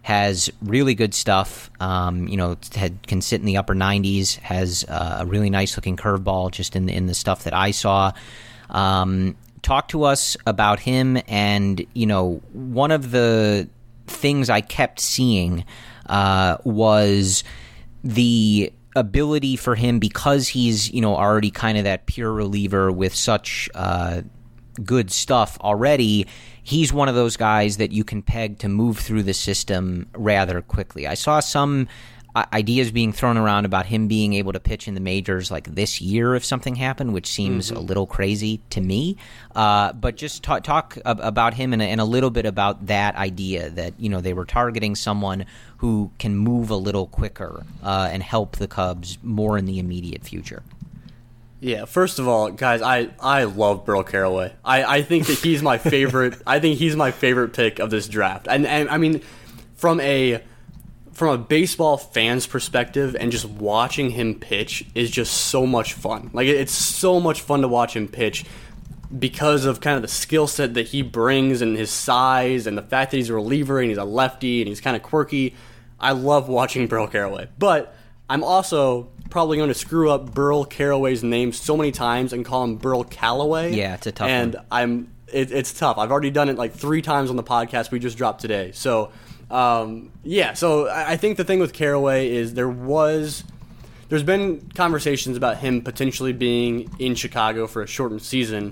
has really good stuff. Can sit in the upper 90s, has a really nice-looking curveball just in the stuff that I saw. Talk to us about him, and, one of the things I kept seeing was the ability for him, because he's already kind of that pure reliever with such good stuff already. He's one of those guys that you can peg to move through the system rather quickly. I saw some ideas being thrown around about him being able to pitch in the majors like this year if something happened, which seems a little crazy to me. But just talk about him and a little bit about that idea that, they were targeting someone who can move a little quicker and help the Cubs more in the immediate future. Yeah, first of all, guys, I love Burl Carraway. I think that he's my favorite. I think he's my favorite pick of this draft. And I mean, from a baseball fan's perspective, and just watching him pitch is just so much fun. Like, it's so much fun to watch him pitch because of kind of the skill set that he brings and his size and the fact that he's a reliever and he's a lefty and he's kind of quirky. I love watching Burl Carraway. But I'm also probably going to screw up Burl Carraway's name so many times and call him Burl Callaway. Yeah, it's a tough one. It's tough. I've already done it like 3 times on the podcast we just dropped today. So, so I think the thing with Carraway is there's been conversations about him potentially being in Chicago for a shortened season.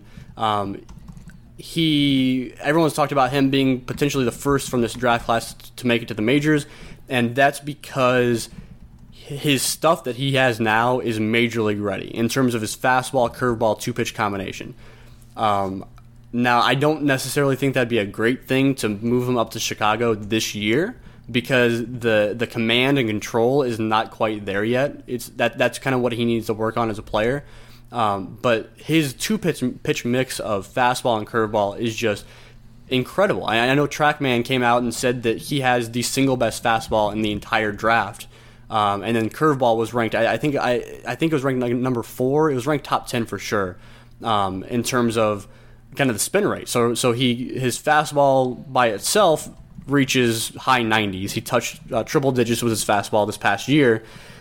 Everyone's talked about him being potentially the first from this draft class to make it to the majors, and that's because his stuff that he has now is major league ready in terms of his fastball, curveball, 2-pitch combination. Now, I don't necessarily think that'd be a great thing to move him up to Chicago this year because the command and control is not quite there yet. That's kind of what he needs to work on as a player. But his 2-pitch mix of fastball and curveball is just incredible. I know TrackMan came out and said that he has the single best fastball in the entire draft. And then curveball was ranked. I think it was ranked like number 4. It was ranked top 10 for sure in terms of kind of the spin rate. So his fastball by itself reaches high 90s. He touched triple digits with his fastball this past year,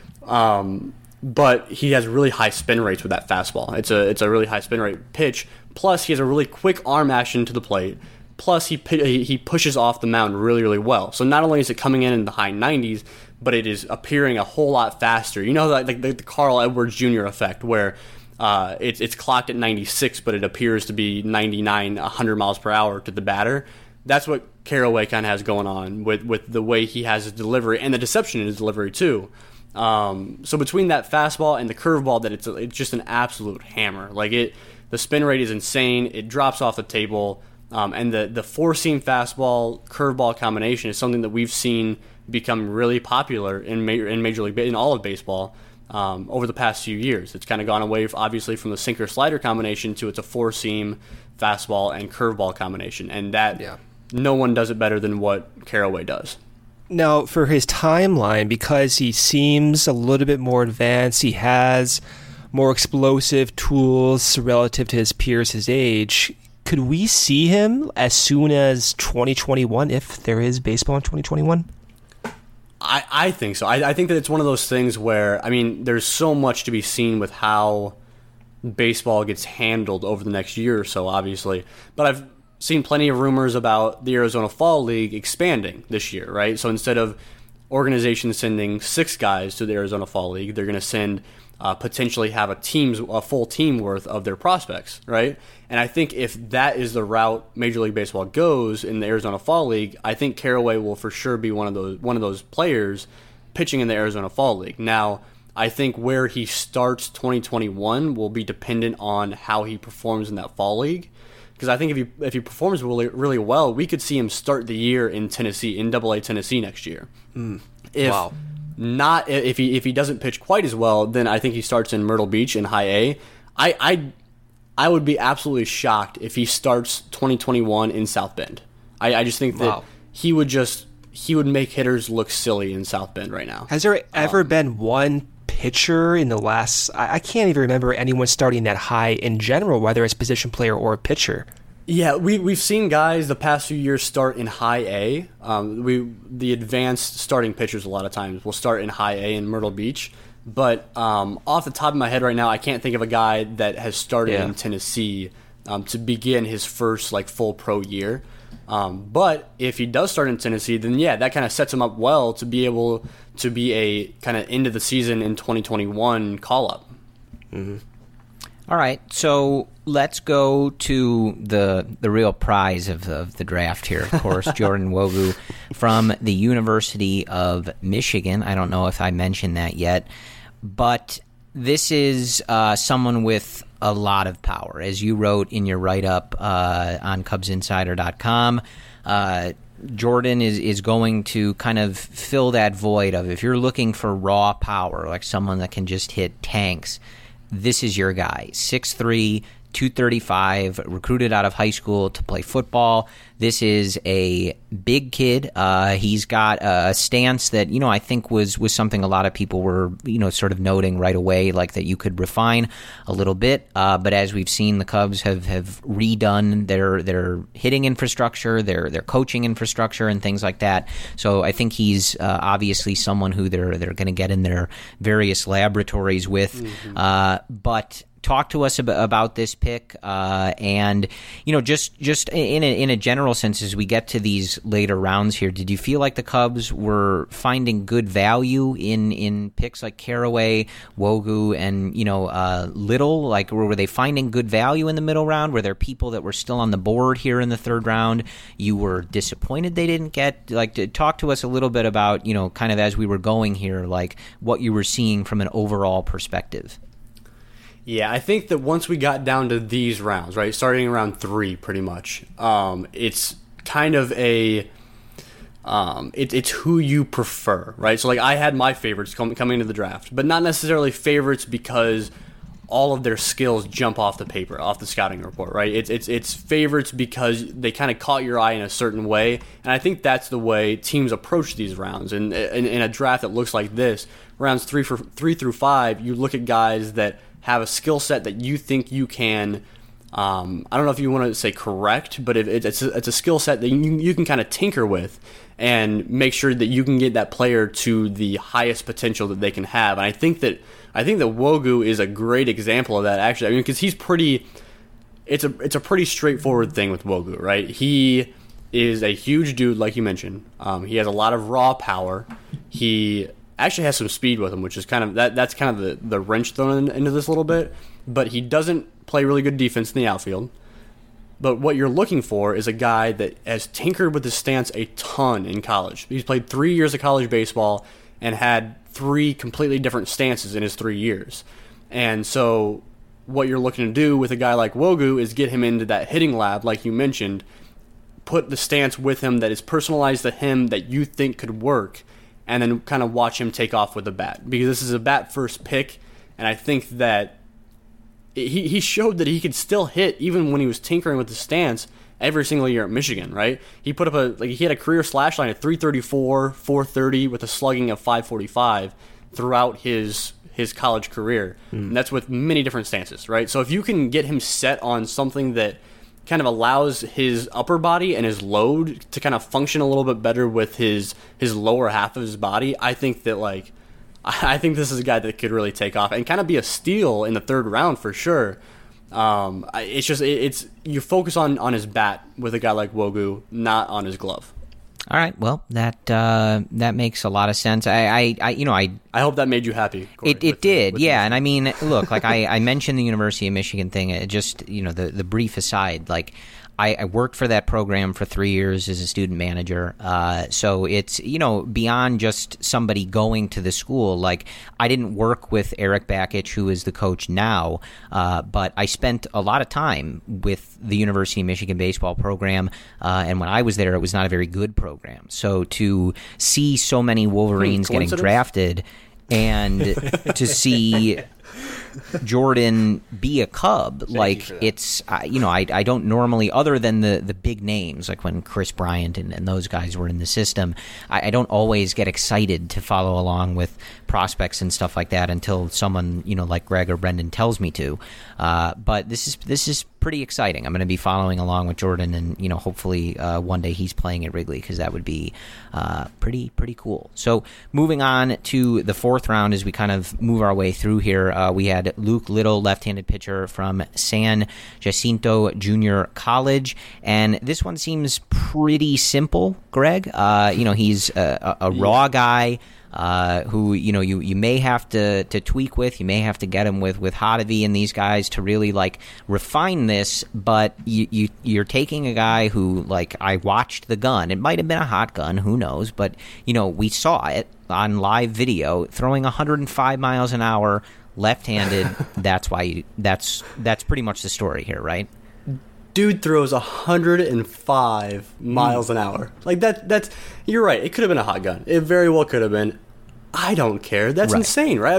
but he has really high spin rates with that fastball. It's a really high spin rate pitch. Plus, he has a really quick arm action to the plate. Plus, he pushes off the mound really, really well. So not only is it coming in the high 90s, but it is appearing a whole lot faster. Like the Carl Edwards Jr. effect, where it's clocked at 96, but it appears to be 99, 100 miles per hour to the batter. That's what Carraway kind of has going on with the way he has his delivery and the deception in his delivery too. So between that fastball and the curveball, that it's just an absolute hammer. Like the spin rate is insane. It drops off the table. And the 4-seam fastball curveball combination is something that we've seen become really popular in Major League in all of baseball over the past few years. It's kind of gone away, obviously, from the sinker slider combination to it's a 4-seam fastball and curveball combination, and no one does it better than what Carraway does. Now, for his timeline, because he seems a little bit more advanced, he has more explosive tools relative to his peers his age. Could we see him as soon as 2021, if there is baseball in 2021? I think so. I think that it's one of those things where, there's so much to be seen with how baseball gets handled over the next year or so, obviously. But I've seen plenty of rumors about the Arizona Fall League expanding this year, right? So instead of organizations sending 6 guys to the Arizona Fall League, they're going to send potentially have a full team worth of their prospects, right? And I think if that is the route Major League Baseball goes in the Arizona Fall League, I think Carraway will for sure be one of those players pitching in the Arizona Fall League. Now, I think where he starts 2021 will be dependent on how he performs in that Fall League. Because I think if he performs really, really well, we could see him start the year in Tennessee, in AA Tennessee next year. Wow. Not if he doesn't pitch quite as well, then I think he starts in Myrtle Beach in High A. I would be absolutely shocked if he starts 2021 in South Bend. I just think that he would make hitters look silly in South Bend right now. Has there ever been one pitcher in the last... I can't even remember anyone starting that high in general, whether it's position player or a pitcher. Yeah, we've seen guys the past few years start in high A. The advanced starting pitchers a lot of times will start in high A in Myrtle Beach. But off the top of my head right now, I can't think of a guy that has started in Tennessee to begin his first full pro year. But if he does start in Tennessee, then that kind of sets him up well to be able to be a kind of end of the season in 2021 call-up. Mm-hmm. All right, so let's go to the real prize of the draft here, of course, Jordan Nwogu from the University of Michigan. I don't know if I mentioned that yet, but this is someone with a lot of power. As you wrote in your write-up on CubsInsider.com, Jordan is going to kind of fill that void of, if you're looking for raw power, like someone that can just hit tanks, this is your guy. 6'3", 235, recruited out of high school to play football. This is a big kid. He's got a stance that, I think was something a lot of people were, sort of noting right away, like that you could refine a little bit. But as we've seen, the Cubs have redone their hitting infrastructure, their coaching infrastructure, and things like that. So I think he's obviously someone who they're going to get in their various laboratories with. Mm-hmm. But talk to us about this pick, and just in a general sense, as we get to these later rounds here, did you feel like the Cubs were finding good value in picks like Carraway, Nwogu, and Little? Like, were they finding good value in the middle round? Were there people that were still on the board here in the third round you were disappointed they didn't get? Talk to us a little bit about kind of as we were going here, like what you were seeing from an overall perspective. Yeah, I think that once we got down to these rounds, right, starting around 3 pretty much, it's kind of it's who you prefer, right? So, I had my favorites coming into the draft, but not necessarily favorites because all of their skills jump off the paper, off the scouting report, right? It's favorites because they kind of caught your eye in a certain way, and I think that's the way teams approach these rounds. And in a draft that looks like this, rounds 3 through 5, you look at guys that have a skill set that you think you can, I don't know if you want to say correct, but it's a skill set that you can kind of tinker with and make sure that you can get that player to the highest potential that they can have. And I think that Nwogu is a great example of that, actually. I mean, because he's pretty, it's a pretty straightforward thing with Nwogu, right? He is a huge dude, like you mentioned. He has a lot of raw power. He actually has some speed with him, which is kind of that's kind of the wrench thrown into this a little bit. But he doesn't play really good defense in the outfield. But what you're looking for is a guy that has tinkered with his stance a ton in college. He's played 3 years of college baseball and had 3 completely different stances in his 3 years. And so what you're looking to do with a guy like Nwogu is get him into that hitting lab, like you mentioned, put the stance with him that is personalized to him that you think could work, and then kind of watch him take off with the bat. Because this is a bat-first pick, and I think that he showed that he could still hit even when he was tinkering with the stance every single year at Michigan, right? He put up he had a career slash line of 334, 430 with a slugging of 545 throughout his college career. And that's with many different stances, right? So if you can get him set on something that kind of allows his upper body and his load to kind of function a little bit better with his lower half of his body, I think that I think this is a guy that could really take off and kind of be a steal in the third round for sure. It's you focus on his bat with a guy like Nwogu, not on his glove. All right, well, that makes a lot of sense. I hope that made you happy, Corey. It did, yeah. And I mean, look, I mentioned the University of Michigan thing. Just the brief aside, I worked for that program for 3 years as a student manager. So it's, beyond just somebody going to the school. I didn't work with Eric Bakich, who is the coach now, but I spent a lot of time with the University of Michigan baseball program. And when I was there, it was not a very good program. So to see so many Wolverines getting drafted and to see Jordan be a Cub, it's I don't normally, other than the big names like when Chris Bryant and those guys were in the system, I don't always get excited to follow along with prospects and stuff like that until someone, like Greg or Brendan tells me to. But this is pretty exciting. I'm going to be following along with Jordan, and hopefully one day he's playing at Wrigley, because that would be pretty cool. So moving on to the fourth round, as we kind of move our way through here, we had Luke Little, left-handed pitcher from San Jacinto Junior College, and this one seems pretty simple, Greg. He's a raw guy. Who you may have to tweak with, you may have to get him with Hottovy and these guys to really refine this. But you're taking a guy who, I watched the gun. It might have been a hot gun, who knows? But we saw it on live video, throwing 105 miles an hour, left-handed. That's pretty much the story here, right? Dude throws 105 miles an hour. That's you're right. It could have been a hot gun. It very well could have been. I don't care. That's right. Insane, right?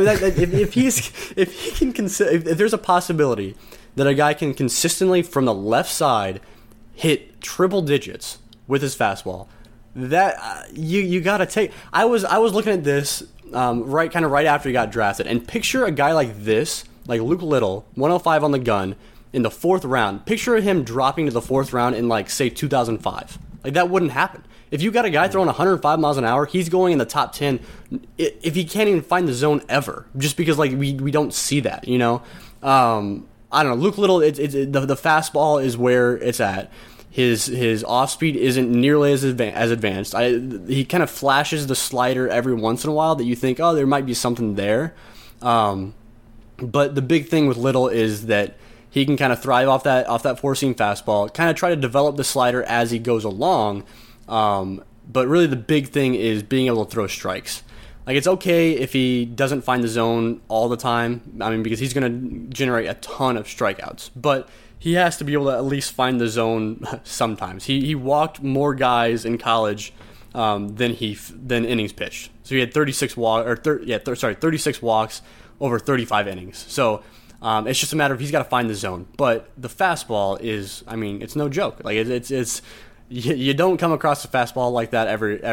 If there's a possibility that a guy can consistently from the left side hit triple digits with his fastball, that you got to take. I was looking at this right after he got drafted, and picture a guy like this, like Luke Little, 105 on the gun in the fourth round. Picture him dropping to the fourth round in say 2005. That wouldn't happen. If you got a guy throwing 105 miles an hour, he's going in the top 10 if he can't even find the zone ever, just because we don't see that, I don't know. Luke Little, the fastball is where it's at. His off speed isn't nearly as advanced. He kind of flashes the slider every once in a while that you think, oh, there might be something there. But the big thing with Little is that he can kind of thrive off that four-seam fastball, kind of try to develop the slider as he goes along. But really the big thing is being able to throw strikes. It's okay if he doesn't find the zone all the time, because he's going to generate a ton of strikeouts. But he has to be able to at least find the zone sometimes. He walked more guys in college than innings pitched. So he had 36 walks over 35 innings. So it's just a matter of he's got to find the zone. But the fastball is, it's no joke. It's you don't come across a fastball like that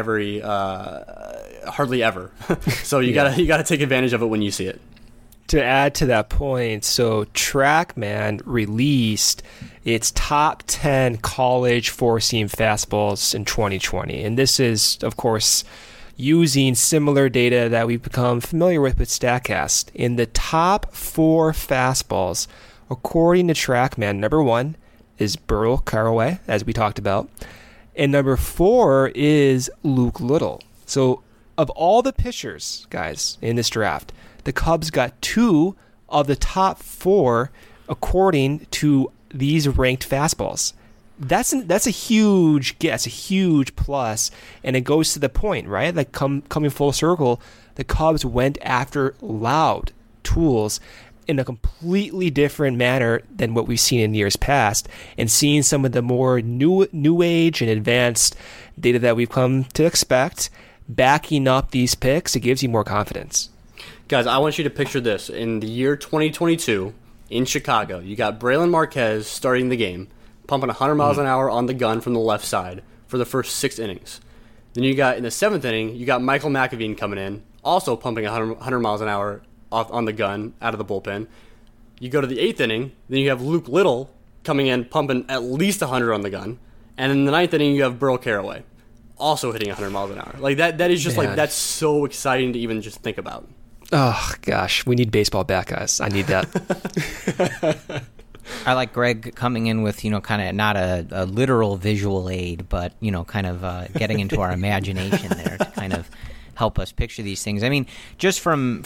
hardly ever. So you gotta take advantage of it when you see it. To add to that point, so TrackMan released its top 10 college four-seam fastballs in 2020, and this is, of course, using similar data that we've become familiar with StatCast. In the top 4 fastballs, according to TrackMan, number 1 is Burl Carraway, as we talked about, and number 4 is Luke Little. So of all the pitchers, guys, in this draft, the Cubs got 2 of the top 4 according to these ranked fastballs. That's a huge guess, a huge plus, and it goes to the point, right? Coming full circle, the Cubs went after loud tools in a completely different manner than what we've seen in years past, and seeing some of the more new age and advanced data that we've come to expect backing up these picks, it gives you more confidence. Guys, I want you to picture this. In the year 2022 in Chicago, you got Braylon Marquez starting the game, pumping 100 miles an hour on the gun from the left side for the first 6 innings. Then you got, in the 7th inning, you got Michael McAveen coming in, also pumping 100 miles an hour on the gun out of the bullpen. You go to the 8th inning, then you have Luke Little coming in, pumping at least 100 on the gun. And in the 9th inning, you have Burl Carraway, also hitting 100 miles an hour. That is just that's so exciting to even just think about. Oh, gosh. We need baseball back, guys. I need that. I like Greg coming in with, kind of not a literal visual aid, but, kind of getting into our imagination there to kind of help us picture these things. Just from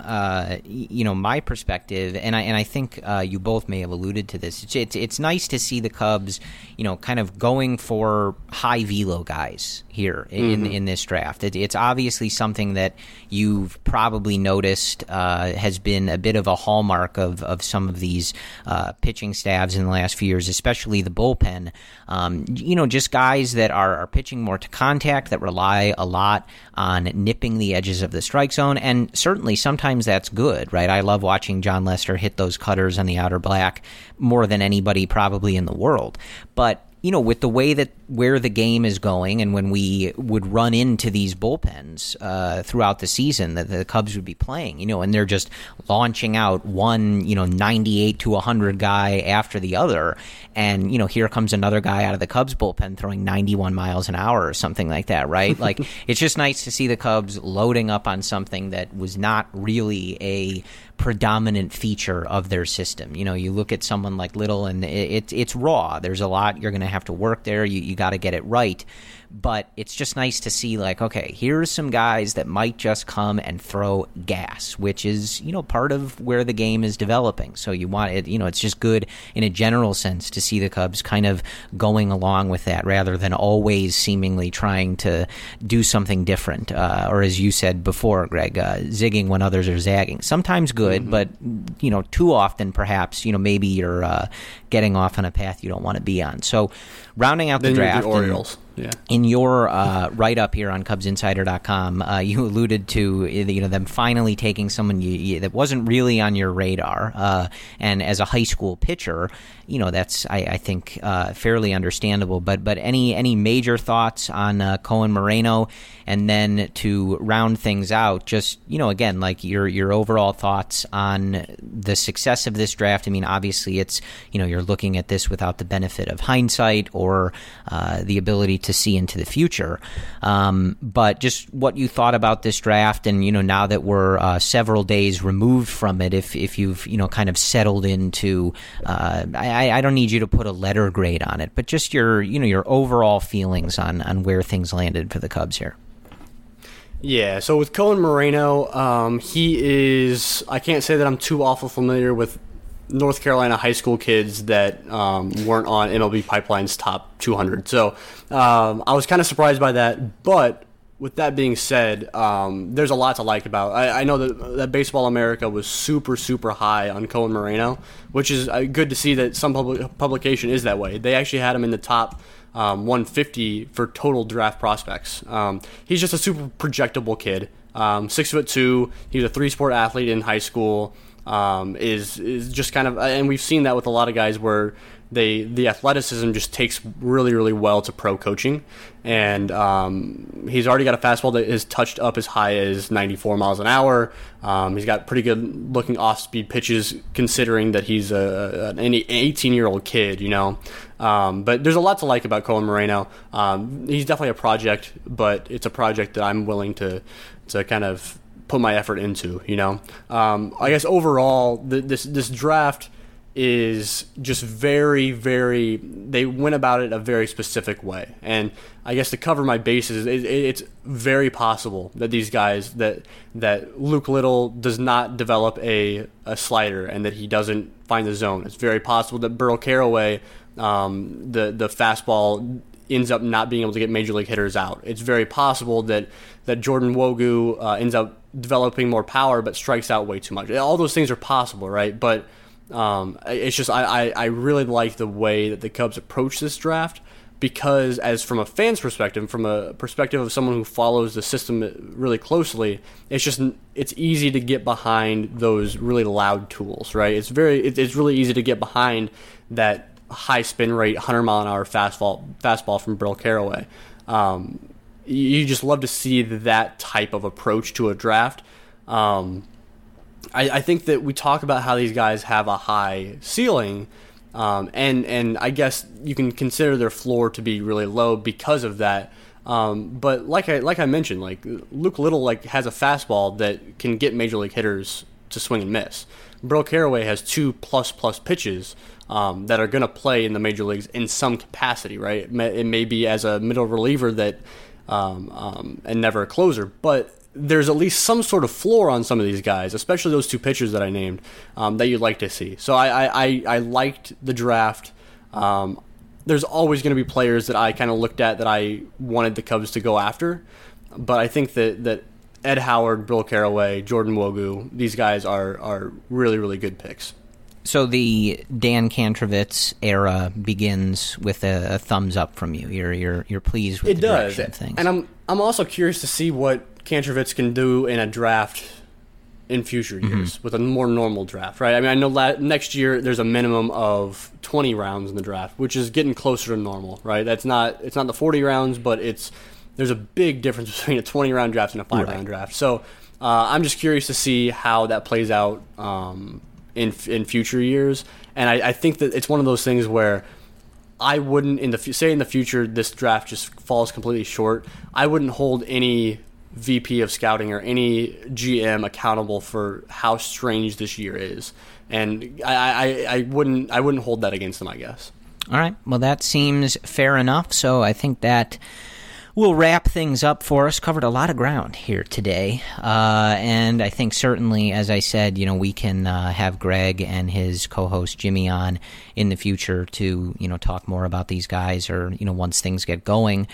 my perspective, and I think you both may have alluded to this. It's nice to see the Cubs, kind of going for high velo guys here in this draft. It's obviously something that you've probably noticed has been a bit of a hallmark of some of these pitching staffs in the last few years, especially the bullpen. Just guys that are pitching more to contact, that rely a lot on nipping the edges of the strike zone, and certainly sometimes that's good, right? I love watching John Lester hit those cutters on the outer black more than anybody probably in the world. But with the way that where the game is going, and when we would run into these bullpens throughout the season that the Cubs would be playing, and they're just launching out one, 98 to 100 guy after the other, and here comes another guy out of the Cubs bullpen throwing 91 miles an hour or something like that, right? Like, it's just nice to see the Cubs loading up on something that was not really a predominant feature of their system. You look at someone like Little, and it's raw. There's a lot you're going to have to work there. You got to get it right. But it's just nice to see, like, okay, here's some guys that might just come and throw gas, which is, part of where the game is developing. So you want it, it's just good in a general sense to see the Cubs kind of going along with that rather than always seemingly trying to do something different. Or as you said before, Greg, zigging when others are zagging. Sometimes good, but, too often perhaps, maybe you're getting off on a path you don't want to be on. So rounding out the draft. The Orioles. Yeah. In your write-up here on CubsInsider.com, you alluded to them finally taking someone that wasn't really on your radar, and as a high school pitcher, that's I think fairly understandable. But any major thoughts on Cohen Moreno, and then to round things out, just again, like your overall thoughts on the success of this draft. I mean, obviously it's you're looking at this without the benefit of hindsight or the ability to see into the future, but just what you thought about this draft, and now that we're several days removed from it, if you've kind of settled into, I don't need you to put a letter grade on it, but just your overall feelings on where things landed for the Cubs here. Yeah, so with Cohen Moreno, he is, I can't say that I'm too awful familiar with North Carolina high school kids that weren't on MLB Pipeline's top 200. So I was kind of surprised by that. But with that being said, there's a lot to like about. I know that Baseball America was super, super high on Cohen Moreno, which is good to see that some publication is that way. They actually had him in the top 150 for total draft prospects. He's just a super projectable kid. 6'2". He was a 3-sport athlete in high school. Is just kind of, and we've seen that with a lot of guys where the athleticism just takes really, really well to pro coaching, and he's already got a fastball that is touched up as high as 94 miles an hour. He's got pretty good looking off-speed pitches, considering that he's an 18-year-old kid, but there's a lot to like about Cohen Moreno. He's definitely a project, but it's a project that I'm willing to kind of put my effort into, I guess overall this draft is just very, very, they went about it a very specific way. And I guess to cover my bases, it's very possible that these guys, that Luke Little does not develop a slider and that he doesn't find the zone. It's very possible that Burl Carraway, the fastball ends up not being able to get major league hitters out. It's very possible that Jordan Wogu ends up developing more power but strikes out way too much. All those things are possible, right? But it's just I really like the way that the Cubs approach this draft, because as from a fan's perspective, from a perspective of someone who follows the system really closely, it's easy to get behind those really loud tools, right? It's really easy to get behind that high spin rate, 100 mile an hour fastball from Burl Carraway. You just love to see that type of approach to a draft. I think that we talk about how these guys have a high ceiling, and I guess you can consider their floor to be really low because of that. But like I mentioned, like Luke Little has a fastball that can get major league hitters to swing and miss. Burl Carraway has 2++ pitches that are going to play in the major leagues in some capacity, right? It may be as a middle reliever that and never a closer, but there's at least some sort of floor on some of these guys, especially those two pitchers that I named, that you'd like to see. So I liked the draft. There's always going to be players that I kind of looked at that I wanted the Cubs to go after, but I think that Ed Howard, Bill Carraway, Jordan Wogu, these guys are really, really good picks. So the Dan Kantrovitz era begins with a thumbs up from you. You're pleased with the direction of things. And I'm also curious to see what Kantrovitz can do in a draft in future years with a more normal draft, right? I mean, I know next year there's a minimum of 20 rounds in the draft, which is getting closer to normal, right? It's not the 40 rounds, but there's a big difference between a 20-round draft and a 5-round draft. So I'm just curious to see how that plays out in future years. And I think that it's one of those things where I wouldn't, in the future this draft just falls completely short, I wouldn't hold any VP of scouting or any GM accountable for how strange this year is, and I wouldn't hold that against them, I guess. All right, well, that seems fair enough. So I think that we'll wrap things up for us. Covered a lot of ground here today, and I think certainly, as I said, we can have Greg and his co-host Jimmy on in the future to talk more about these guys, or once things get going,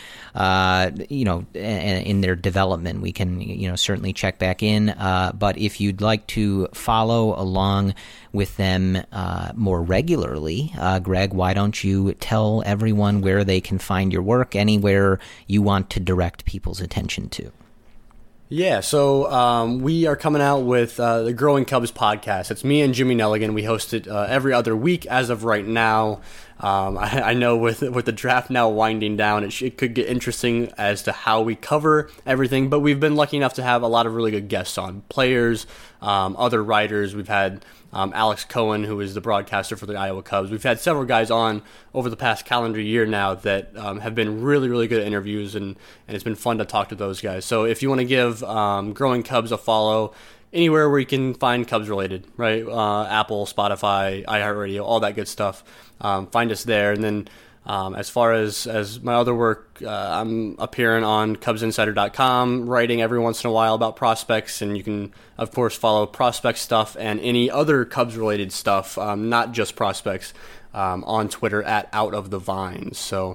in their development, we can certainly check back in. But if you'd like to follow along with them more regularly, Greg, why don't you tell everyone where they can find your work, anywhere you want to direct people's attention to? Yeah, so we are coming out with the Growing Cubs podcast. It's me and Jimmy Nelligan. We host it every other week as of right now. I know with the draft now winding down, it could get interesting as to how we cover everything, but we've been lucky enough to have a lot of really good guests on, players, other writers. We've had Alex Cohen, who is the broadcaster for the Iowa Cubs. We've had several guys on over the past calendar year now that have been really, really good interviews, and it's been fun to talk to those guys. So if you want to give Growing Cubs a follow anywhere where you can find Cubs related, right? Apple, Spotify, iHeartRadio, all that good stuff. Find us there. And then as far as my other work, I'm appearing on CubsInsider.com, writing every once in a while about prospects, and you can, of course, follow prospect stuff and any other Cubs-related stuff, not just prospects, on Twitter at Out of the Vines. So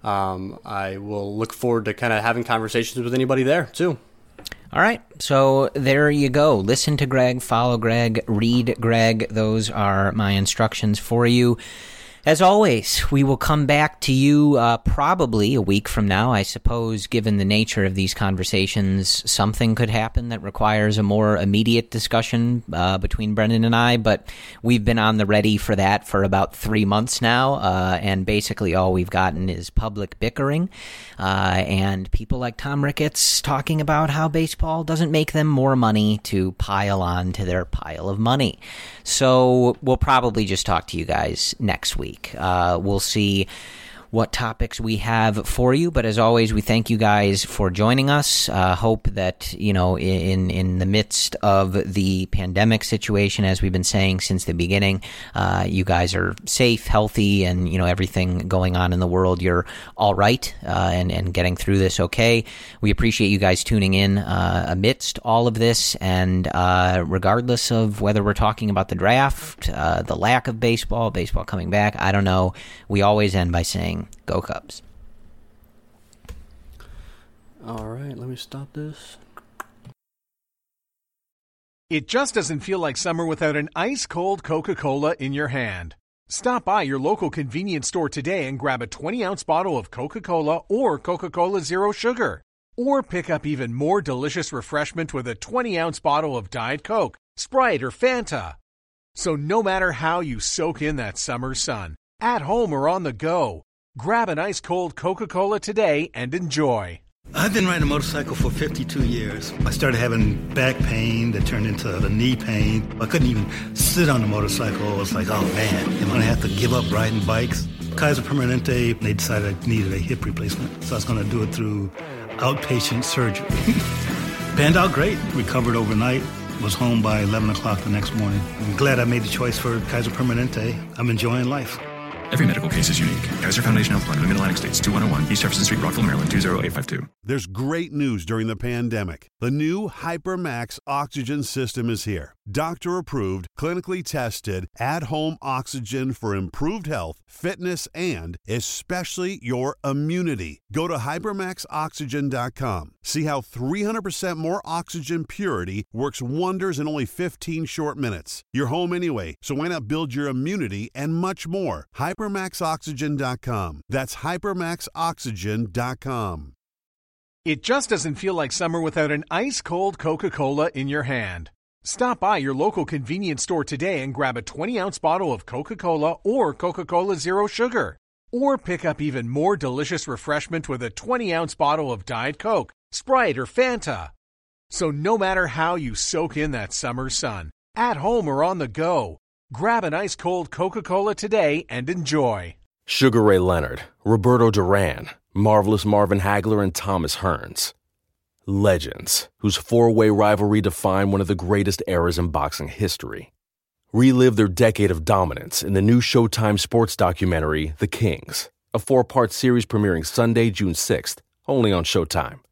I will look forward to kind of having conversations with anybody there, too. All right, so there you go. Listen to Greg, follow Greg, read Greg. Those are my instructions for you. As always, we will come back to you probably a week from now. I suppose, given the nature of these conversations, something could happen that requires a more immediate discussion between Brendan and I, but we've been on the ready for that for about 3 months now, and basically all we've gotten is public bickering and people like Tom Ricketts talking about how baseball doesn't make them more money to pile on to their pile of money. So we'll probably just talk to you guys next week. We'll see what topics we have for you, but as always, we thank you guys for joining us. Hope that, in the midst of the pandemic situation, as we've been saying since the beginning, you guys are safe, healthy, and, everything going on in the world, you're all right, and getting through this okay. We appreciate you guys tuning in amidst all of this, and regardless of whether we're talking about the draft, the lack of baseball coming back, I don't know, we always end by saying, go Cubs. All right, let me stop this. It just doesn't feel like summer without an ice-cold Coca-Cola in your hand. Stop by your local convenience store today and grab a 20-ounce bottle of Coca-Cola or Coca-Cola Zero Sugar. Or pick up even more delicious refreshment with a 20-ounce bottle of Diet Coke, Sprite, or Fanta. So no matter how you soak in that summer sun, at home or on the go, grab an ice-cold Coca-Cola today and enjoy. I've been riding a motorcycle for 52 years. I started having back pain that turned into the knee pain. I couldn't even sit on the motorcycle. I was like, oh man, am I going to have to give up riding bikes? Kaiser Permanente, they decided I needed a hip replacement. So I was going to do it through outpatient surgery. Panned out great. Recovered overnight. Was home by 11 o'clock the next morning. I'm glad I made the choice for Kaiser Permanente. I'm enjoying life. Every medical case is unique. Kaiser Foundation Health Plan of Mid-Atlantic States, 2101 East Jefferson Street, Rockville, Maryland, 20852. There's great news during the pandemic. The new HyperMax oxygen system is here. Doctor-approved, clinically tested, at-home oxygen for improved health, fitness, and especially your immunity. Go to HyperMaxOxygen.com. See how 300% more oxygen purity works wonders in only 15 short minutes. You're home anyway, so why not build your immunity and much more? HyperMaxOxygen.com. That's HyperMaxOxygen.com. It just doesn't feel like summer without an ice-cold Coca-Cola in your hand. Stop by your local convenience store today and grab a 20-ounce bottle of Coca-Cola or Coca-Cola Zero Sugar. Or pick up even more delicious refreshment with a 20-ounce bottle of Diet Coke, Sprite, or Fanta. So no matter how you soak in that summer sun, at home or on the go, grab an ice-cold Coca-Cola today and enjoy. Sugar Ray Leonard, Roberto Duran, Marvelous Marvin Hagler, and Thomas Hearns. Legends, whose four-way rivalry defined one of the greatest eras in boxing history. Relive their decade of dominance in the new Showtime sports documentary, The Kings, a 4-part series premiering Sunday, June 6th, only on Showtime.